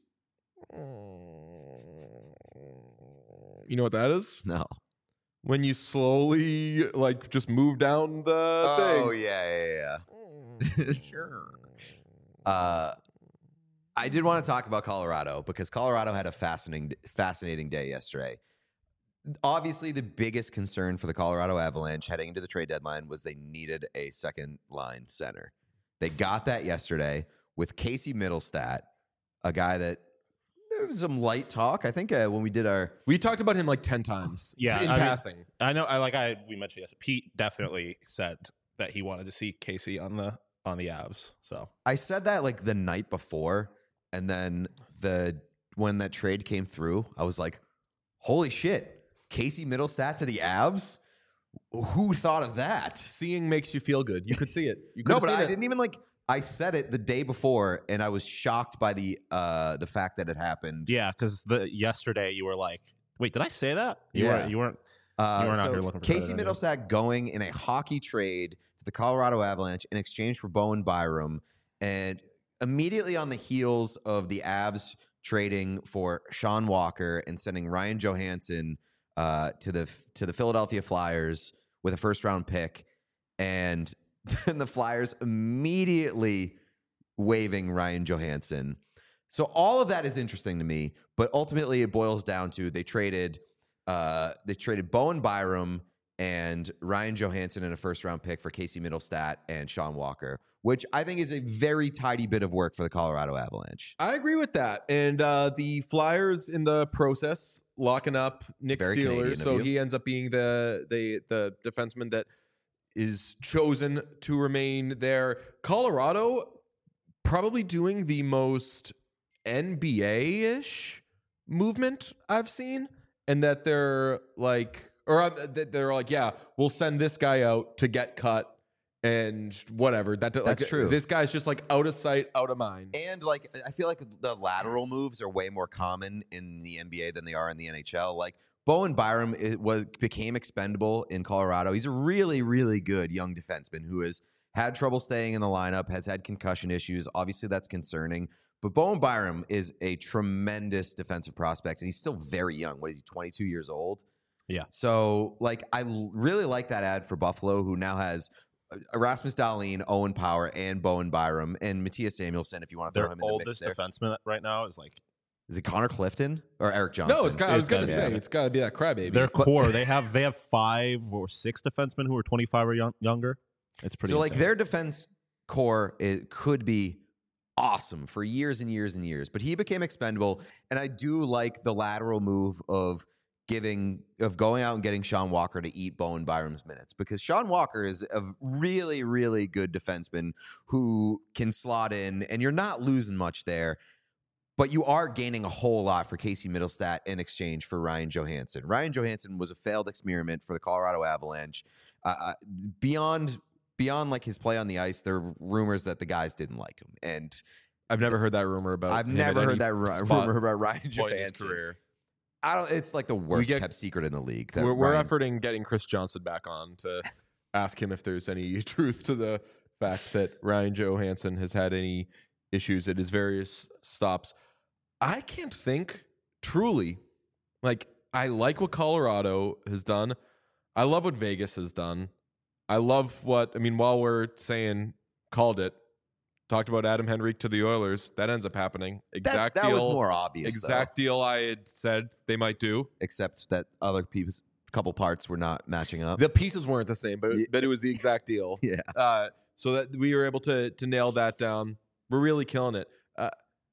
You know what that is? No. When you slowly like just move down the thing. Oh yeah, yeah, yeah. Sure. Uh, I did want to talk about Colorado because Colorado had a fascinating, fascinating day yesterday. Obviously, the biggest concern for the Colorado Avalanche heading into the trade deadline was they needed a second line center. They got that yesterday with Casey Middlestat, a guy that there was some light talk. I think uh, when we did our We talked about him like ten times. Yeah, in I mean- passing. I know. I like. I we mentioned yes. Pete definitely said that he wanted to see Casey on the on the Avs. So I said that like the night before, and then the when that trade came through, I was like, "Holy shit, Casey Middlestat to the Avs? Who thought of that?" Seeing makes you feel good. You could see it. You could No, have but seen I it. didn't even like I said it the day before, and I was shocked by the uh, the fact that it happened. Yeah, because the yesterday you were like, wait, did I say that? You Yeah. weren't. You weren't. Uh, You were not so here looking for Casey credit, Middlesack going in a hockey trade to the Colorado Avalanche in exchange for Bowen Byram, and immediately on the heels of the Avs trading for Sean Walker and sending Ryan Johansson uh, to the to the Philadelphia Flyers with a first round pick, and then the Flyers immediately waiving Ryan Johansson. So all of that is interesting to me, but ultimately it boils down to they traded. Uh, they traded Bowen Byram and Ryan Johansson in a first round pick for Casey Middlestat and Sean Walker, which I think is a very tidy bit of work for the Colorado Avalanche. I agree with that. And uh, the Flyers in the process locking up Nick Very Seeler, Canadian of so you. he ends up being the the the defenseman that is chosen to remain there. Colorado probably doing the most N B A-ish movement I've seen. And that they're like, or um, that they're like, yeah, we'll send this guy out to get cut and whatever. That like, That's true. This guy's just like out of sight, out of mind. And like, I feel like the lateral moves are way more common in the N B A than they are in the N H L. Like Bowen Byram it was became expendable in Colorado. He's a really, really good young defenseman who has had trouble staying in the lineup, has had concussion issues. Obviously, that's concerning. But Bowen Byram is a tremendous defensive prospect, and he's still very young. What is he, twenty-two years old? Yeah. So, like, I l- really like that ad for Buffalo, who now has Erasmus Dahlin, Owen Power, and Bowen Byram, and Matthias Samuelsson, if you want to throw Their him in the mix oldest there. defenseman right now is like Is it Connor Clifton or Eric Johnson? No, it's got, I was It's going to gotta say, be. it's got to be that crybaby. their core. They have they have five or six defensemen who are twenty-five or young, younger. It's pretty. So, like, insane. their defense core it could be awesome for years and years and years, but he became expendable, and I do like the lateral move of giving of going out and getting Sean Walker to eat Bowen Byram's minutes, because Sean Walker is a really, really good defenseman who can slot in, and you're not losing much there, but you are gaining a whole lot for Casey Middlestat in exchange for Ryan Johansson. Ryan Johansson was a failed experiment for the Colorado Avalanche. Uh, beyond beyond like his play on the ice, there are rumors that the guys didn't like him, and I've never heard that rumor about. I've him never at heard any that ru- spot rumor about Ryan point in his Johansson. career. I don't. It's like the worst get- kept secret in the league. that We're, we're Ryan- efforting getting Chris Johnson back on to ask him if there's any truth to the fact that Ryan Johansson has had any issues at his various stops. I can't think truly. Like, I like what Colorado has done. I love what Vegas has done. I love what, I mean, while we're saying called it, talked about Adam Henrique to the Oilers, that ends up happening. That's, Exact that deal. was more obvious. Exact deal I had said they might do. though, except that other people's couple parts were not matching up. The pieces weren't the same, but, Yeah. but it was the exact deal. yeah. Uh, so that we were able to to nail that down. We're really killing it. Uh,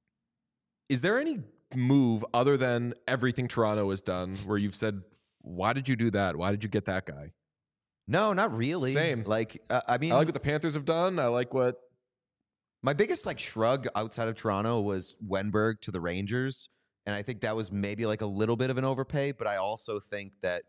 is there any move other than everything Toronto has done where you've said, why did you do that? Why did you get that guy? No, not really. Same. Like, uh, I mean, I like what the Panthers have done. I like what my biggest like shrug outside of Toronto was Wenberg to the Rangers, and I think that was maybe like a little bit of an overpay. But I also think that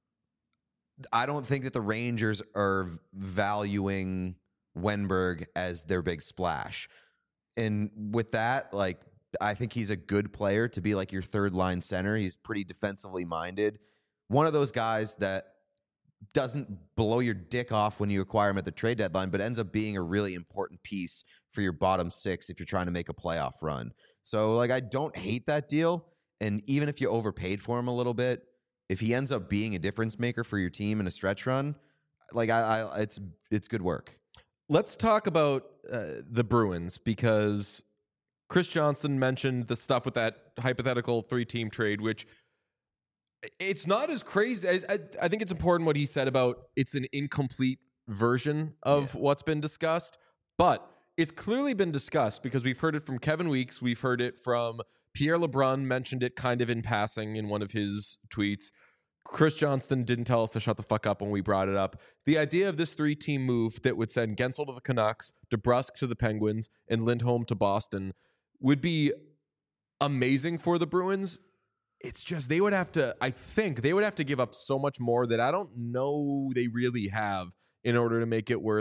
I don't think that the Rangers are valuing Wenberg as their big splash. And with that, like, I think he's a good player to be like your third line center. He's pretty defensively minded. One of those guys that doesn't blow your dick off when you acquire him at the trade deadline, but ends up being a really important piece for your bottom six if you're trying to make a playoff run. So, like, I don't hate that deal. And even if you overpaid for him a little bit, if he ends up being a difference maker for your team in a stretch run, like, I, I it's it's good work. Let's talk about uh, the Bruins, because Chris Johnson mentioned the stuff with that hypothetical three-team trade, which it's not as crazy. As, I, I think it's important what he said about it's an incomplete version of Yeah. what's been discussed, but it's clearly been discussed because we've heard it from Kevin Weeks. We've heard it from Pierre LeBrun, mentioned it kind of in passing in one of his tweets. Chris Johnston didn't tell us to shut the fuck up when we brought it up. The idea of this three-team move that would send Gensel to the Canucks, DeBrusk to the Penguins, and Lindholm to Boston would be amazing for the Bruins. It's just they would have to, I think, they would have to give up so much more that I don't know they really have in order to make it worth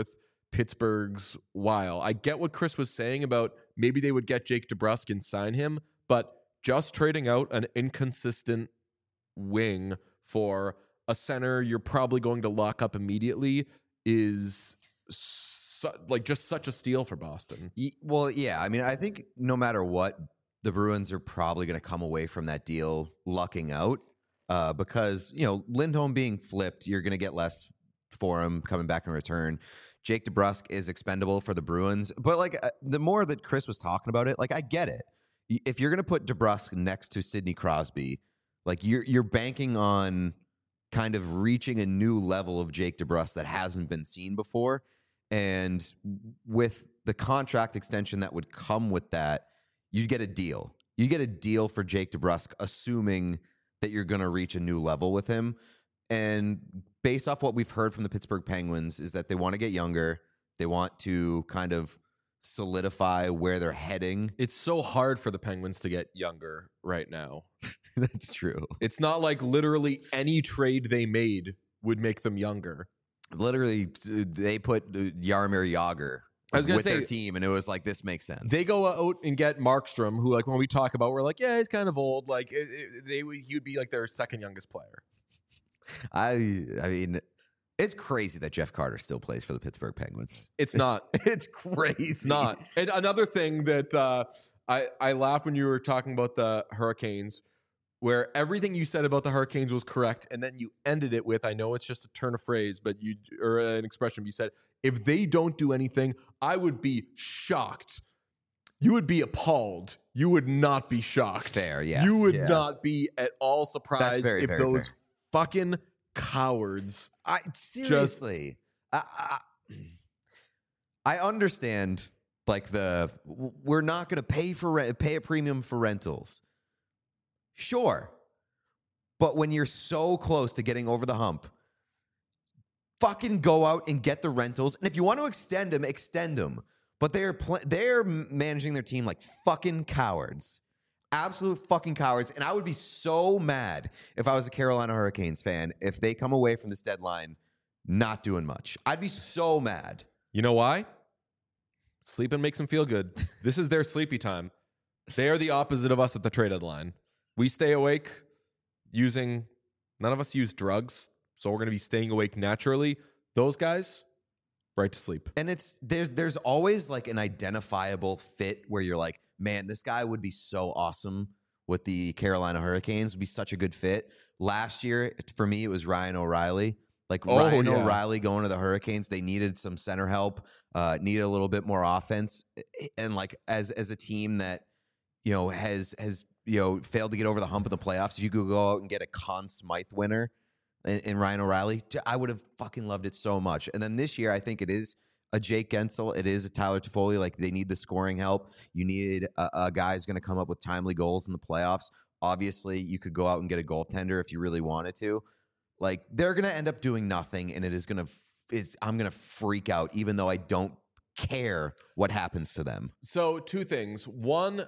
Pittsburgh's while. I get what Chris was saying about maybe they would get Jake DeBrusk and sign him, but just trading out an inconsistent wing for a center you're probably going to lock up immediately is su- like just such a steal for Boston. Ye- Well, yeah. I mean, I think no matter what, the Bruins are probably going to come away from that deal lucking out uh, because, you know, Lindholm being flipped, you're going to get less for him coming back in return. Jake DeBrusk is expendable for the Bruins. But, like, uh, the more that Chris was talking about it, like, I get it. Y- If you're going to put DeBrusk next to Sidney Crosby, like, you're you're banking on kind of reaching a new level of Jake DeBrusk that hasn't been seen before. And with the contract extension that would come with that, you'd get a deal. You get a deal for Jake DeBrusk, assuming that you're going to reach a new level with him. And based off what we've heard from the Pittsburgh Penguins is that they want to get younger. They want to kind of solidify where they're heading. It's so hard for the Penguins to get younger right now. That's true. It's not like literally any trade they made would make them younger. Literally, they put Jaromir Jagr I was gonna with say, their team, and it was like, this makes sense. They go out and get Markstrom, who, like, when we talk about, we're like, yeah, he's kind of old. Like, it, it, they would- he would be like their second youngest player. I, I mean, it's crazy that Jeff Carter still plays for the Pittsburgh Penguins. It's not. It's crazy. It's not. And another thing that uh, I I laughed when you were talking about the Hurricanes, where everything you said about the Hurricanes was correct, and then you ended it with, I know it's just a turn of phrase, but you or an expression, but you said, if they don't do anything, I would be shocked. You would be appalled. You would not be shocked. Fair, yes, You would yeah. not be at all surprised very, if very those fair. fucking cowards. I seriously, I, I, I understand. Like the we're not going to pay for rent, pay a premium for rentals. Sure, but when you're so close to getting over the hump, fucking go out and get the rentals. And if you want to extend them, extend them. But they're pl- they're managing their team like fucking cowards. Absolute fucking cowards. And I would be so mad if I was a Carolina Hurricanes fan if they come away from this deadline not doing much. I'd be so mad. You know why? Sleeping makes them feel good. This is their sleepy time. They are the opposite of us at the trade deadline. We stay awake using, none of us use drugs, so we're going to be staying awake naturally. Those guys, right to sleep. And it's there's there's always like an identifiable fit where you're like, man, this guy would be so awesome with the Carolina Hurricanes, would be such a good fit. Last year, for me, it was Ryan O'Reilly. Like Oh, Ryan yeah. O'Reilly going to the Hurricanes, they needed some center help, uh, needed a little bit more offense. And like as as a team that, you know, has has you know failed to get over the hump in the playoffs, you could go out and get a Conn Smythe winner in, in Ryan O'Reilly. I would have fucking loved it so much. And then this year, I think it is a Jake Gensel. It is a Tyler Toffoli. Like they need the scoring help. You need a, a guy who's going to come up with timely goals in the playoffs. Obviously, you could go out and get a goaltender if you really wanted to. Like they're going to end up doing nothing, and it is going to. It's I'm going to freak out, even though I don't care what happens to them. So, two things. One,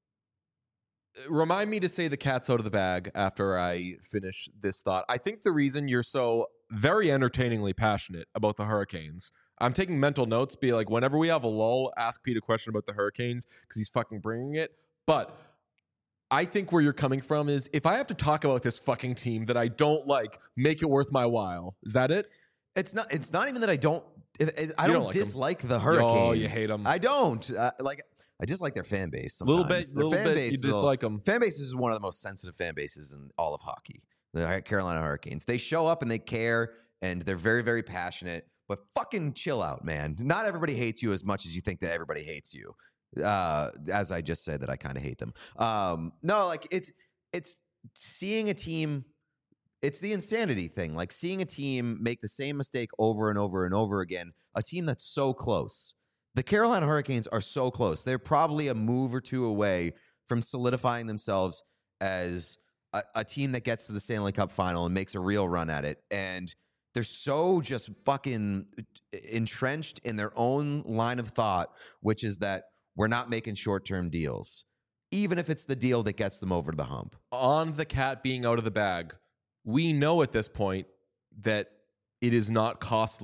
remind me to say the cat's out of the bag after I finish this thought. I think the reason you're so very entertainingly passionate about the Hurricanes, I'm taking mental notes, be like, whenever we have a lull, ask Pete a question about the Hurricanes because he's fucking bringing it. But I think where you're coming from is if I have to talk about this fucking team that I don't like, make it worth my while. Is that it? It's not. It's not even that I don't. If, if, I You don't, don't like 'em. dislike the Hurricanes. Oh, you hate 'em. I don't. Uh, like. I dislike their fan base. A little bit, sometimes. Their little fan bit. base You is a little- dislike them. Fan base is one of the most sensitive fan bases in all of hockey. The Carolina Hurricanes. They show up and they care, and they're very, very passionate. But fucking chill out, man. Not everybody hates you as much as you think that everybody hates you. Uh, as I just said, that I kind of hate them. Um, no, like it's it's seeing a team. It's the insanity thing. Like seeing a team make the same mistake over and over and over again. A team that's so close. The Carolina Hurricanes are so close. They're probably a move or two away from solidifying themselves as a, a team that gets to the Stanley Cup final and makes a real run at it. And they're so just fucking entrenched in their own line of thought, which is that we're not making short-term deals, even if it's the deal that gets them over the hump. On the cat being out of the bag, we know at this point that it is not costly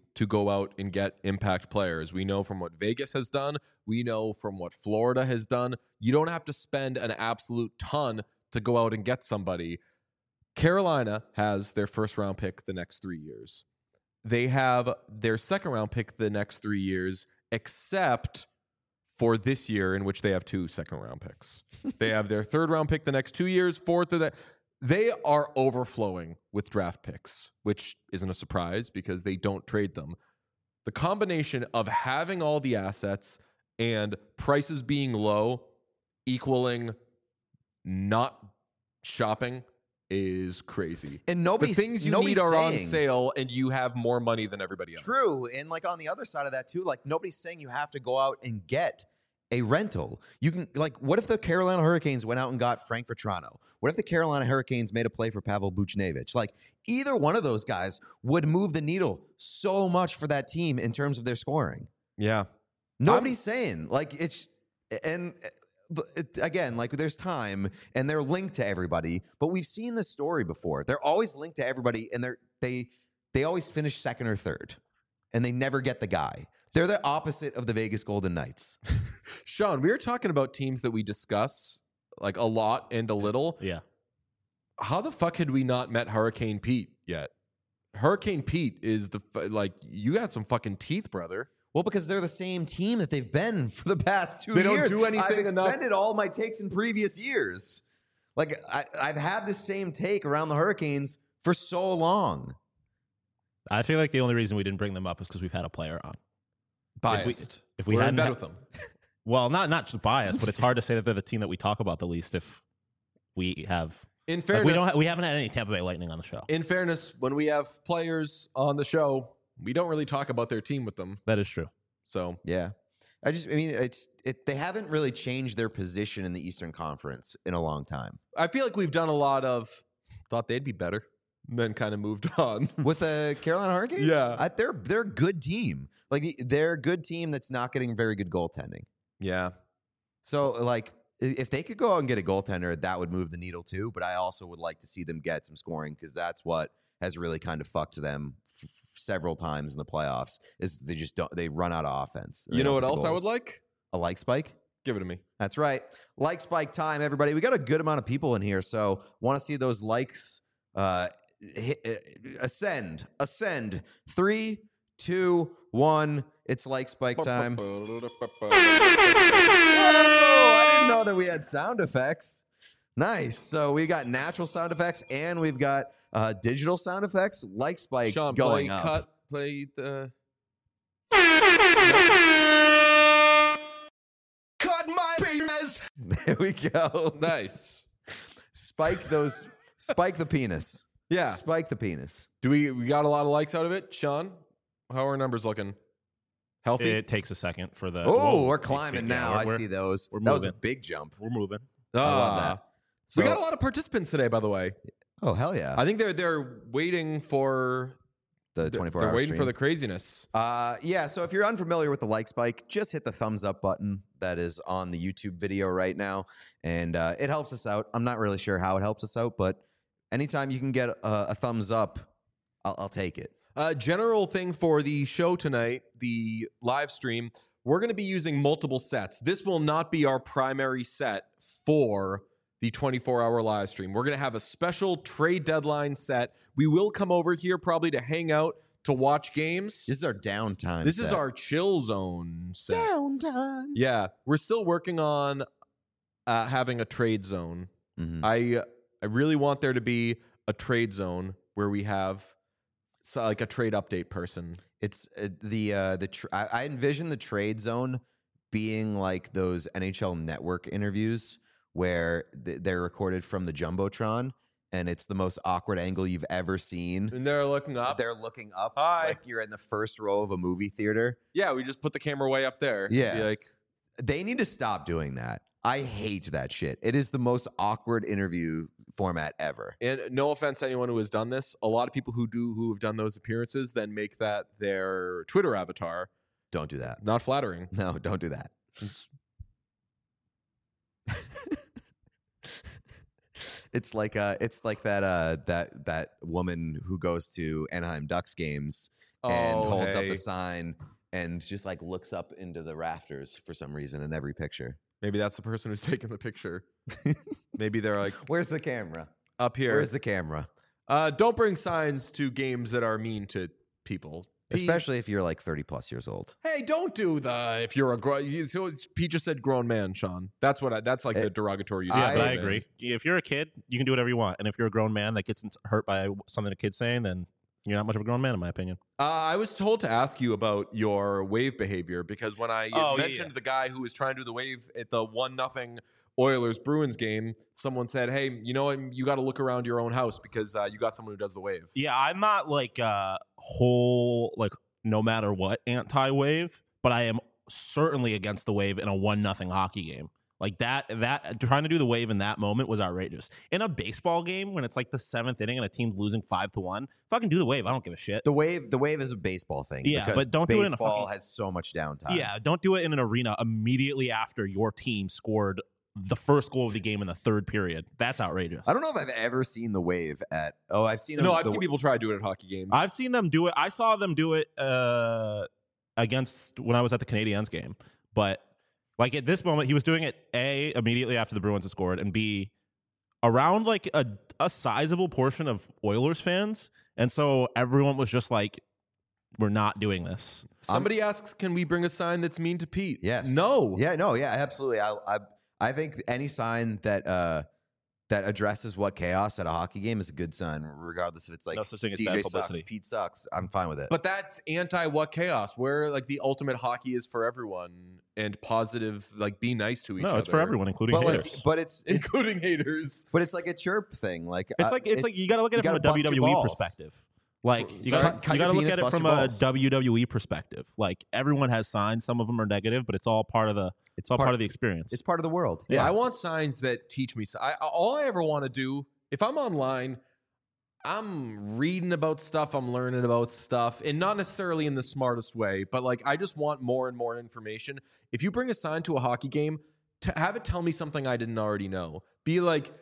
to go out and get impact players. We know from what Vegas has done. We know from what Florida has done. You don't have to spend an absolute ton to go out and get somebody. Carolina has their first round pick the next three years. They have their second round pick the next three years, except for this year in which they have two second round picks. They have their third round pick the next two years, fourth of that. They are overflowing with draft picks, which isn't a surprise because they don't trade them. The combination of having all the assets and prices being low equaling not shopping is crazy. And nobody, the things you need are saying, on sale, and you have more money than everybody else. True. And like on the other side of that too, like nobody's saying you have to go out and get a rental. You can, like, what if the Carolina Hurricanes went out and got Frank Vetrano? What if the Carolina Hurricanes made a play for Pavel Buchnevich? Like, either one of those guys would move the needle so much for that team in terms of their scoring. Yeah. Nobody's I'm, saying, like, it's, and it, again, like, there's time, and they're linked to everybody, but we've seen this story before. They're always linked to everybody, and they're, they, they always finish second or third, and they never get the guy. They're the opposite of the Vegas Golden Knights. Sean, we were talking about teams that we discuss like a lot and a little. Yeah. How the fuck had we not met Hurricane Pete yet? Hurricane Pete is the, like, you got some fucking teeth, brother. Well, because they're the same team that they've been for the past two they years. They don't do anything I've enough. expended all my takes in previous years. Like, I, I've had the same take around the Hurricanes for so long. I feel like the only reason we didn't bring them up is because we've had a player on. Biased. If we, if we We're hadn't in bed ha- with them. Well, not not just biased, but it's hard to say that they're the team that we talk about the least if we have. In fairness, like we don't. Ha- we haven't had any Tampa Bay Lightning on the show. In fairness, when we have players on the show, we don't really talk about their team with them. That is true. So yeah, I just I mean it's it. They haven't really changed their position in the Eastern Conference in a long time. I feel like we've done a lot of thought they'd be better, then kind of moved on with the Carolina Hurricanes. Yeah, I, they're they're a good team. Like they're a good team that's not getting very good goaltending. Yeah. So like if they could go out and get a goaltender, that would move the needle too. But I also would like to see them get some scoring because that's what has really kind of fucked them f- several times in the playoffs. Is they just don't they run out of offense. You know what else goals. I would like? A like spike. Give it to me. That's right. Like spike time, everybody. We got a good amount of people in here, so want to see those likes uh, hit, uh, ascend, ascend. Three, two, one. It's like spike time. Whoa, I didn't know that we had sound effects. Nice. So we got natural sound effects and we've got uh, digital sound effects. Like spikes Sean, going play, up. Cut, play the. Cut my penis. There we go. Nice. Spike those. Spike the penis. Yeah. Spike the penis. Do we? We got a lot of likes out of it, Sean. How are our numbers looking? Healthy? It takes a second for the. Oh, whoa, we're climbing yeah, now. we're, I see those. We're that was a moving. big jump. We're moving. I love Ah. that. So, we got a lot of participants today, by the way. Oh hell yeah! I think they're they're waiting for the twenty-four They're hour waiting stream. for the craziness. Uh, yeah. So if you're unfamiliar with the like spike, just hit the thumbs up button that is on the YouTube video right now, and uh, it helps us out. I'm not really sure how it helps us out, but anytime you can get a, a thumbs up, I'll, I'll take it. Uh, general thing for the show tonight, the live stream, we're going to be using multiple sets. This will not be our primary set for the twenty-four hour live stream. We're going to have a special trade deadline set. We will come over here probably to hang out, to watch games. This is our downtime. This set. is our chill zone set. downtime. Yeah, we're still working on uh, having a trade zone. Mm-hmm. I I really want there to be a trade zone where we have so like a trade update person. It's uh, the uh, the tr- I, I envision the trade zone being like those N H L Network interviews where th- they're recorded from the jumbotron, and it's the most awkward angle you've ever seen. And they're looking up. They're looking up, Hi. like you're in the first row of a movie theater. Yeah, we just put the camera way up there. Yeah. Be like, They need to stop doing that. I hate that shit. It is the most awkward interview format ever. and no offense to anyone who has done this, a lot of people who do who have done those appearances then make that their Twitter avatar. Don't do that. Not flattering. No, don't do that. It's- It's like uh it's like that uh that that woman who goes to Anaheim Ducks games and Oh, holds up hey. the sign and just like looks up into the rafters for some reason in every picture. Maybe that's the person who's taking the picture. Maybe they're like Where's the camera? up here. Where's the camera? Uh, don't bring signs to games that are mean to people. Pete- Especially if you're like thirty plus years old. Hey, don't do the if you're a grown. So Pete just said grown man, Sean. That's what I. That's like It- the derogatory use. Yeah, of but I grown man. agree. If you're a kid, you can do whatever you want. And if you're a grown man that gets hurt by something a kid's saying, then you're not much of a grown man, in my opinion. Uh, I was told to ask you about your wave behavior because when I Oh, yeah, mentioned yeah. the guy who was trying to do the wave at the one nothing Oilers Bruins game, someone said, "Hey, you know what? You got to look around your own house because uh, you got someone who does the wave." Yeah, I'm not like uh whole like no matter what anti-wave, but I am certainly against the wave in a one nothing hockey game. Like that that trying to do the wave in that moment was outrageous. In a baseball game when it's like the seventh inning and a team's losing five to one, fucking do the wave. I don't give a shit. The wave, the wave is a baseball thing. Yeah, because but don't do it in a baseball fucking- has so much downtime. Yeah, don't do it in an arena immediately after your team scored the first goal of the game in the third period. That's outrageous. I don't know if I've ever seen the wave at. Oh, I've seen. No, them- I've the, seen people try to do it at hockey games. I've seen them do it. I saw them do it uh, against when I was at the Canadiens game. But like at this moment, he was doing it A, immediately after the Bruins had scored, and B, around like a, a sizable portion of Oilers fans. And so everyone was just like, we're not doing this. Somebody asks, "Can we bring a sign that's mean to Pete?" Yes. No. Yeah. No. Yeah. Absolutely. I. I. I think any sign that uh that addresses what chaos at a hockey game is a good sign, regardless if it's like No such thing as D J bad sucks, publicity. Pete sucks. I'm fine with it. But that's anti what chaos, where like the ultimate hockey is for everyone and positive, like be nice to each other. No, it's for everyone, including but like, haters. but it's it's including haters. but it's like a chirp thing. Like It's uh, like it's, like you got to look at you it from a gotta bust your W W E balls. perspective. Like you Sorry? got Cut- cut you your got to look penis, at it bust from your a balls. W W E perspective. Like everyone has signs. Some of them are negative, but it's all part of the it's all part, part- of the experience. It's part of the world. Yeah, I want signs that teach me. I, all I ever want to do, if I'm online, I'm reading about stuff, I'm learning about stuff, and not necessarily in the smartest way, but like I just want more and more information. If you bring a sign to a hockey game, to have it tell me something I didn't already know. Be like,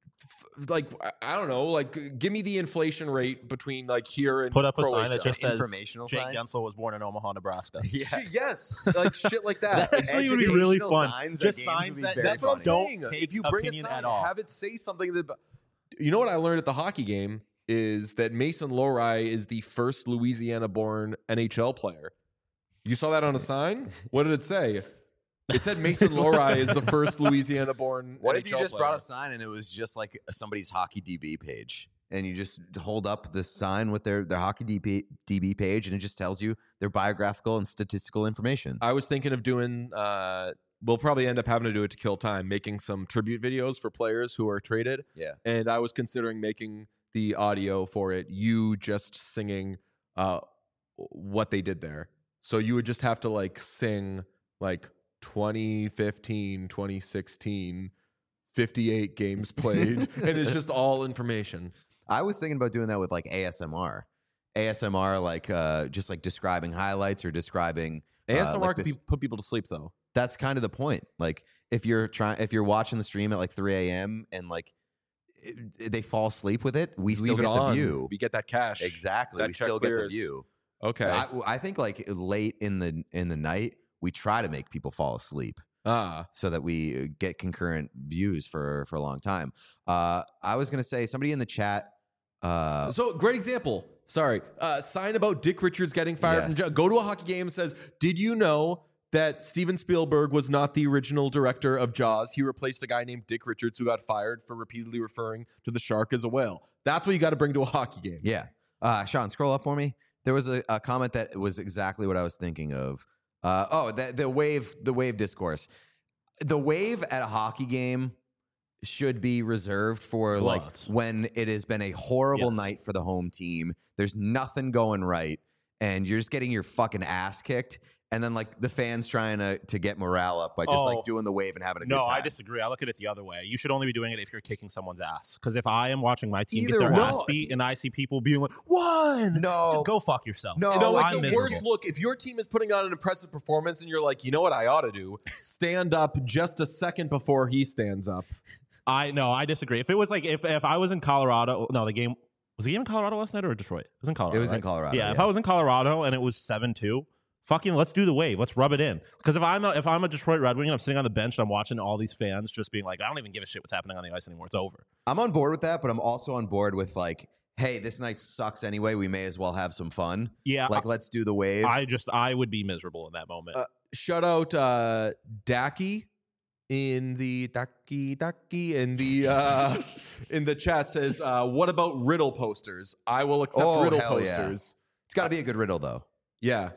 f- like I don't know, like give me the inflation rate between like here and Put up a Croatia. sign that just says Informational Jake sign? Gensel was born in Omaha, Nebraska. Yeah. Shit, yes, like shit like that. That actually would be really Educational fun. signs at Just games signs would be that very That's what I'm funny. saying. Don't take If you bring a opinion sign, at all. have it say something that. You know what I learned at the hockey game is that Mason Lohrei is the first Louisiana-born N H L player. You saw that on a sign? What did it say? It said Mason Lohrei is the first Louisiana-born What N if H you L just player. brought a sign and it was just like somebody's hockey D B page, and you just hold up this sign with their their hockey D B, D B page, and it just tells you their biographical and statistical information. I was thinking of doing. Uh, we'll probably end up having to do it to kill time, making some tribute videos for players who are traded. Yeah. And I was considering making the audio for it, you just singing uh, what they did there. So you would just have to like sing like twenty fifteen, twenty sixteen, fifty-eight games played, and it's just all information. I was thinking about doing that with like A S M R. A S M R, like uh, just like describing highlights or describing uh, A S M R like could this- be, put people to sleep though. That's kind of the point. Like if you're trying, if you're watching the stream at like three a.m. and like it, they fall asleep with it, we still Leave it get the on. view. We get that cash. Exactly, That we check still get the clears. view. Okay. I, I think like late in the in the night, we try to make people fall asleep ah. so that we uh, get concurrent views for for a long time. Uh, I was gonna say somebody in the chat. Uh, So great example. Sorry. Uh, sign about Dick Richards getting fired Yes. from jail. Go to a hockey game and says, "Did you know that Steven Spielberg was not the original director of Jaws? He replaced a guy named Dick Richards who got fired for repeatedly referring to the shark as a whale." That's what you got to bring to a hockey game. yeah, uh, Sean, scroll up for me. There was a, a comment that was exactly what I was thinking of. Uh, oh, the, the wave, the wave discourse. The wave at a hockey game should be reserved for like What? when it has been a horrible Yes. night for the home team. There's nothing going right, and you're just getting your fucking ass kicked. And then like the fans trying to to get morale up by just Oh. like doing the wave and having a No, good time. I disagree. I look at it the other way. You should only be doing it if you're kicking someone's ass. Because if I am watching my team Either get their way. ass No, beat see- and I see people being like, "One, No. go fuck yourself." No, You know, like I'm the miserable. worst look, if your team is putting on an impressive performance and you're like, you know what I ought to do? Stand up just a second before he stands up. I no, I disagree. If it was like if if I was in Colorado, no, the game Was the game in Colorado last night or Detroit? It was in Colorado. It was right? in Colorado. Yeah, Yeah, if I was in Colorado and it was seven two, fucking let's do the wave. Let's rub it in. Because if I'm a, if I'm a Detroit Red Wing and I'm sitting on the bench and I'm watching all these fans just being like, I don't even give a shit what's happening on the ice anymore. It's over. I'm on board with that, but I'm also on board with like, hey, this night sucks anyway. We may as well have some fun. Yeah, Like, let's do the wave. I just I would be miserable in that moment. Uh, shout out uh, Dacky in the Dacky Dacky in the uh, in the chat says, uh, "What about riddle posters? I will accept Oh, riddle hell yeah. posters." it's got to be a good riddle, though. Yeah.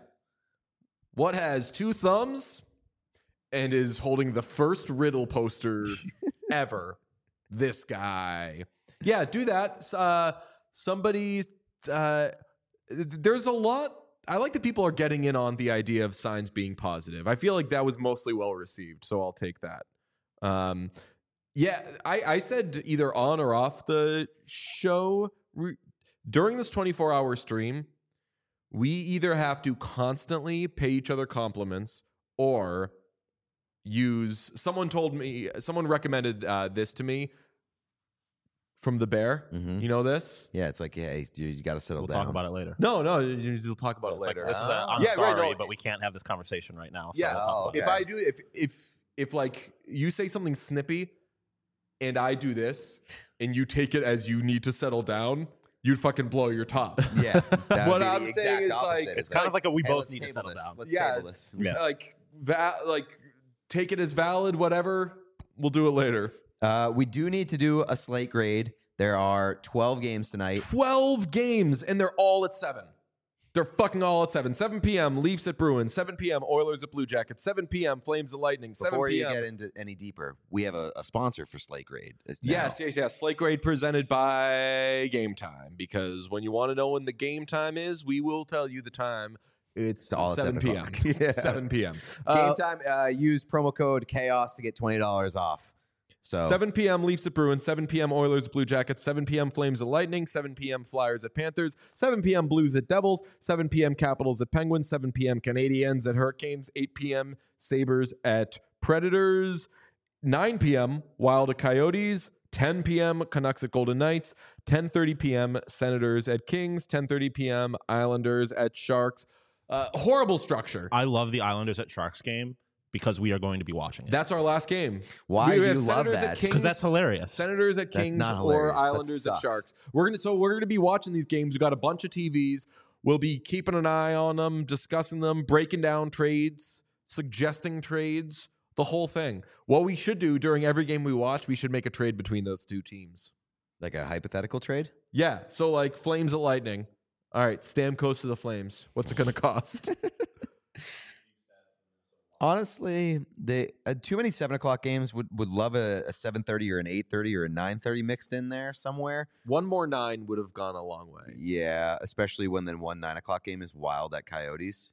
What has two thumbs and is holding the first riddle poster ever? This guy. Yeah, do that. Uh, somebody. Uh, there's a lot. I like that people are getting in on the idea of signs being positive. I feel like that was mostly well received, so I'll take that. Um, yeah, I, I said either on or off the show re- during this twenty-four hour stream, we either have to constantly pay each other compliments or use. Someone told me, someone recommended uh, this to me from the Bear. Mhm. You know this? Yeah, it's like, hey, you, you got to settle we'll down. talk about it later. No, no, you- you'll talk about it It's like, later. this is a, I'm Yeah, right, sorry, no, but we can't have this conversation right now. So Yeah, we'll talk oh, about if it. I do, if if if like you say something snippy, and I do this, and you take it as you need to settle down, you'd fucking blow your top. Yeah. that would What be the I'm exact saying is, opposite. like, It's kind of like a we hey, both let's need to table settle this. down. Let's yeah, table it's this. Yeah. like va- like take it as valid, whatever. We'll do it later. Uh, we do need to do a slate grade. There are twelve games tonight. twelve games, and they're all at seven. They're fucking all at seven. seven p.m. Leafs at Bruins. seven p.m. Oilers at Blue Jackets. seven p.m. Flames at Lightning. seven Before you p.m. get into any deeper, we have a, a sponsor for slate grade. It's now. Yes, yes, yes. Slate Grade presented by Game Time. Because when you want to know when the game time is, we will tell you the time. It's It's all at seven seven p.m. o'clock. Yeah. seven p.m. Game Uh, time. Uh, use promo code chaos to get twenty dollars off. So seven p.m. Leafs at Bruins, seven p.m. Oilers at Blue Jackets, seven p.m. Flames at Lightning, seven p.m. Flyers at Panthers, seven p.m. Blues at Devils, seven p.m. Capitals at Penguins, seven p.m. Canadiens at Hurricanes, eight p.m. Sabres at Predators, nine p.m. Wild at Coyotes, ten p.m. Canucks at Golden Knights, ten thirty p.m. Senators at Kings, ten thirty p.m. Islanders at Sharks. Uh, horrible structure. I love the Islanders at Sharks game because we are going to be watching it. That's our last game. why We do have you love Senators at that? Kings. Because that's hilarious. Senators at That's Kings not or hilarious. That Islanders at sucks. Sharks. We're gonna so we're gonna be watching these games. We got a bunch of T Vs. We'll be keeping an eye on them, discussing them, breaking down trades, suggesting trades, the whole thing. What we should do during every game we watch, we should make a trade between those two teams. Like a hypothetical trade? Yeah. So like Flames at Lightning. All right, Stamkos to the Flames. What's it gonna cost? Honestly, they uh, too many seven o'clock games. Would would love a, a seven thirty or an eight thirty or a nine thirty mixed in there somewhere. One more nine would have gone a long way. Yeah, especially when then one nine o'clock game is Wild at Coyotes.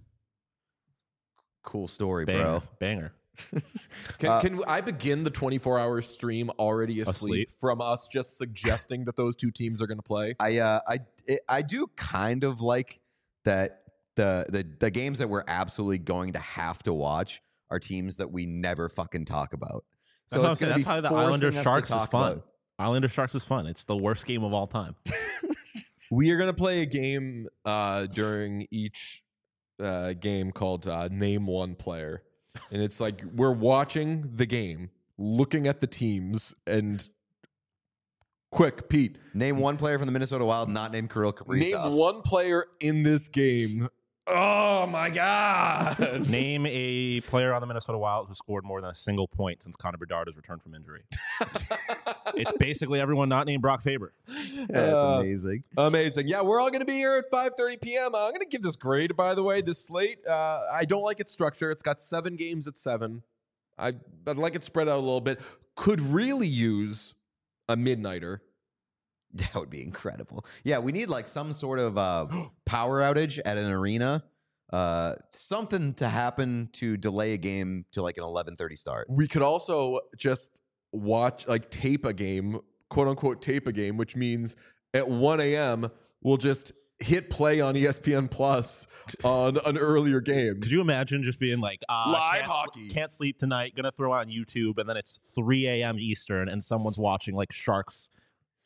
Cool story, Banger. bro. Banger. Can, Uh, can I begin the twenty-four hour stream already asleep, Asleep? from us just suggesting that those two teams are going to play? I uh I it, I do kind of like that the the the games that we're absolutely going to have to watch are teams that we never fucking talk about. So That's, it's what going I'm to saying. be That's how the Islander forcing us to Sharks is talk fun. about- Islander Sharks is fun. It's the worst game of all time. We are going to play a game uh, during each uh, game called uh, Name One Player. And it's like we're watching the game, looking at the teams, and quick, Pete, Name one player from the Minnesota Wild not named Kirill Kaprizov. name one player in this game. Oh my God. Name a player on the Minnesota Wild who scored more than a single point since Connor Bedard has returned from injury. It's basically everyone not named Brock Faber. That's Uh, amazing. Amazing. Yeah, we're all going to be here at five thirty p.m. I'm going to give this grade, by the way, this slate. Uh, I don't like its structure. It's got seven games at seven. I, I'd like it spread out a little bit. Could really use a midnighter. That would be incredible. Yeah, we need like some sort of uh, power outage at an arena. Uh, something to happen to delay a game to like an eleven thirty start. We could also just watch, like tape a game, quote unquote tape a game, which means at one a.m. we'll just hit play on E S P N Plus on an earlier game. Could you imagine just being like, uh, Live can't, hockey. Can't sleep tonight. Gonna throw on YouTube, and then it's three a.m. Eastern, and someone's watching like Sharks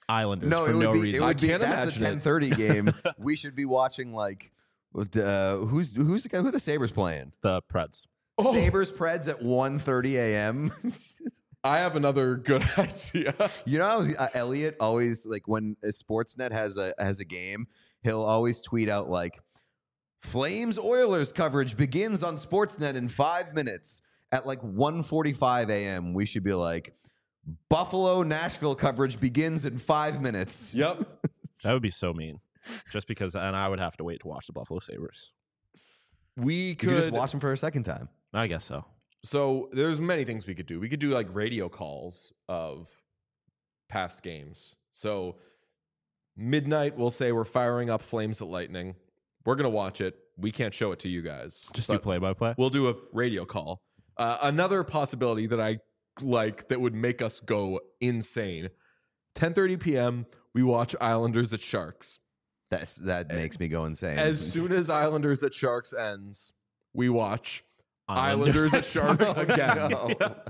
Islanders No, for it would no be. reason. It I would be. can't That's imagine a it. ten thirty game. We should be watching like, with, uh, who's who's the guy? Who are the Sabres playing? The Preds. Oh. Sabres Preds at one thirty a.m. I have another good idea. You know, how, uh, Elliot always like when uh, Sportsnet has a has a game, he'll always tweet out like, "Flames Oilers coverage begins on Sportsnet in five minutes." At like one forty-five a.m., we should be like, "Buffalo Nashville coverage begins in five minutes." Yep. That would be so mean. Just because, and I would have to wait to watch the Buffalo Sabres. We You could could just watch them for a second time. I guess so. So there's many things we could do. We could do like radio calls of past games. So midnight, we'll say we're firing up Flames at Lightning. We're gonna watch it. We can't show it to you guys. Just do but play by play. We'll do a radio call. Uh, another possibility that I like that would make us go insane. ten thirty p.m. We watch Islanders at Sharks. That's that makes me go insane. As soon as Islanders at Sharks ends, we watch Islanders at Sharks No, again. no.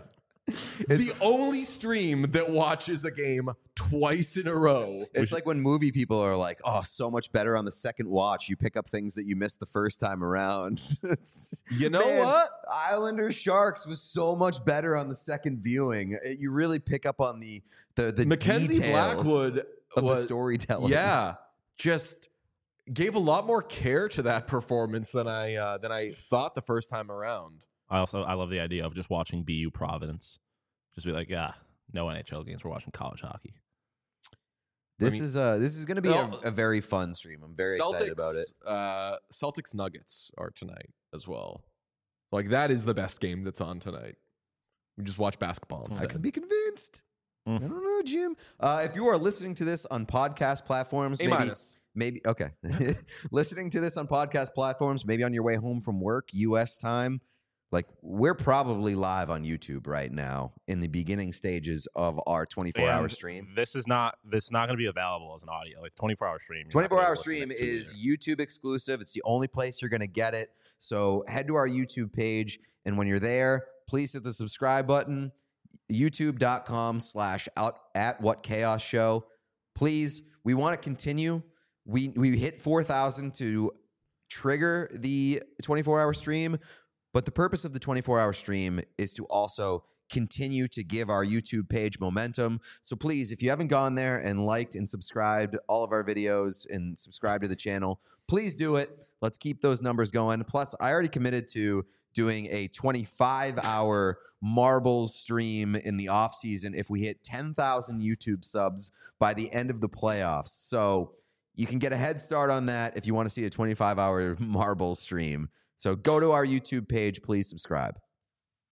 The only stream that watches a game twice in a row. It's like when movie people are like, "Oh, so much better on the second watch. You pick up things that you missed the first time around." It's, You know man, what? Islanders Sharks was so much better on the second viewing. It- You really pick up on the the the Mackenzie details Blackwood of was, the storytelling. yeah, just gave a lot more care to that performance than I uh, than I thought the first time around. I also I love the idea of just watching B U Providence. Just be like, yeah, no N H L games. We're watching college hockey. This I mean- is uh this is going to be Well, a, a very fun stream. I'm very excited about it. Uh, Celtics Nuggets are tonight as well. Like that is the best game that's on tonight. We just watch basketball I instead. could be convinced. Mm. I don't know, Jim. Uh, if you are listening to this on podcast platforms, A maybe minus. maybe okay. Listening to this on podcast platforms, maybe on your way home from work, U S time. Like we're probably live on YouTube right now in the beginning stages of our twenty-four hour And stream. This is not this is not going to be available as an audio. Like twenty-four hour stream. You're not twenty-four gonna hour listen to stream it two is years. YouTube exclusive. It's the only place you're going to get it. So head to our YouTube page. And when you're there, please hit the subscribe button. YouTube.com slash out at what chaos show. Please, we want to continue. We we hit four thousand to trigger the twenty-four hour stream. But the purpose of the twenty-four hour stream is to also continue to give our YouTube page momentum. So please, if you haven't gone there and liked and subscribed all of our videos and subscribed to the channel, please do it. Let's keep those numbers going. Plus, I already committed to doing a twenty-five hour marbles stream in the off season if we hit ten thousand YouTube subs by the end of the playoffs. So you can get a head start on that if you want to see a twenty-five hour marbles stream. So go to our YouTube page, please subscribe.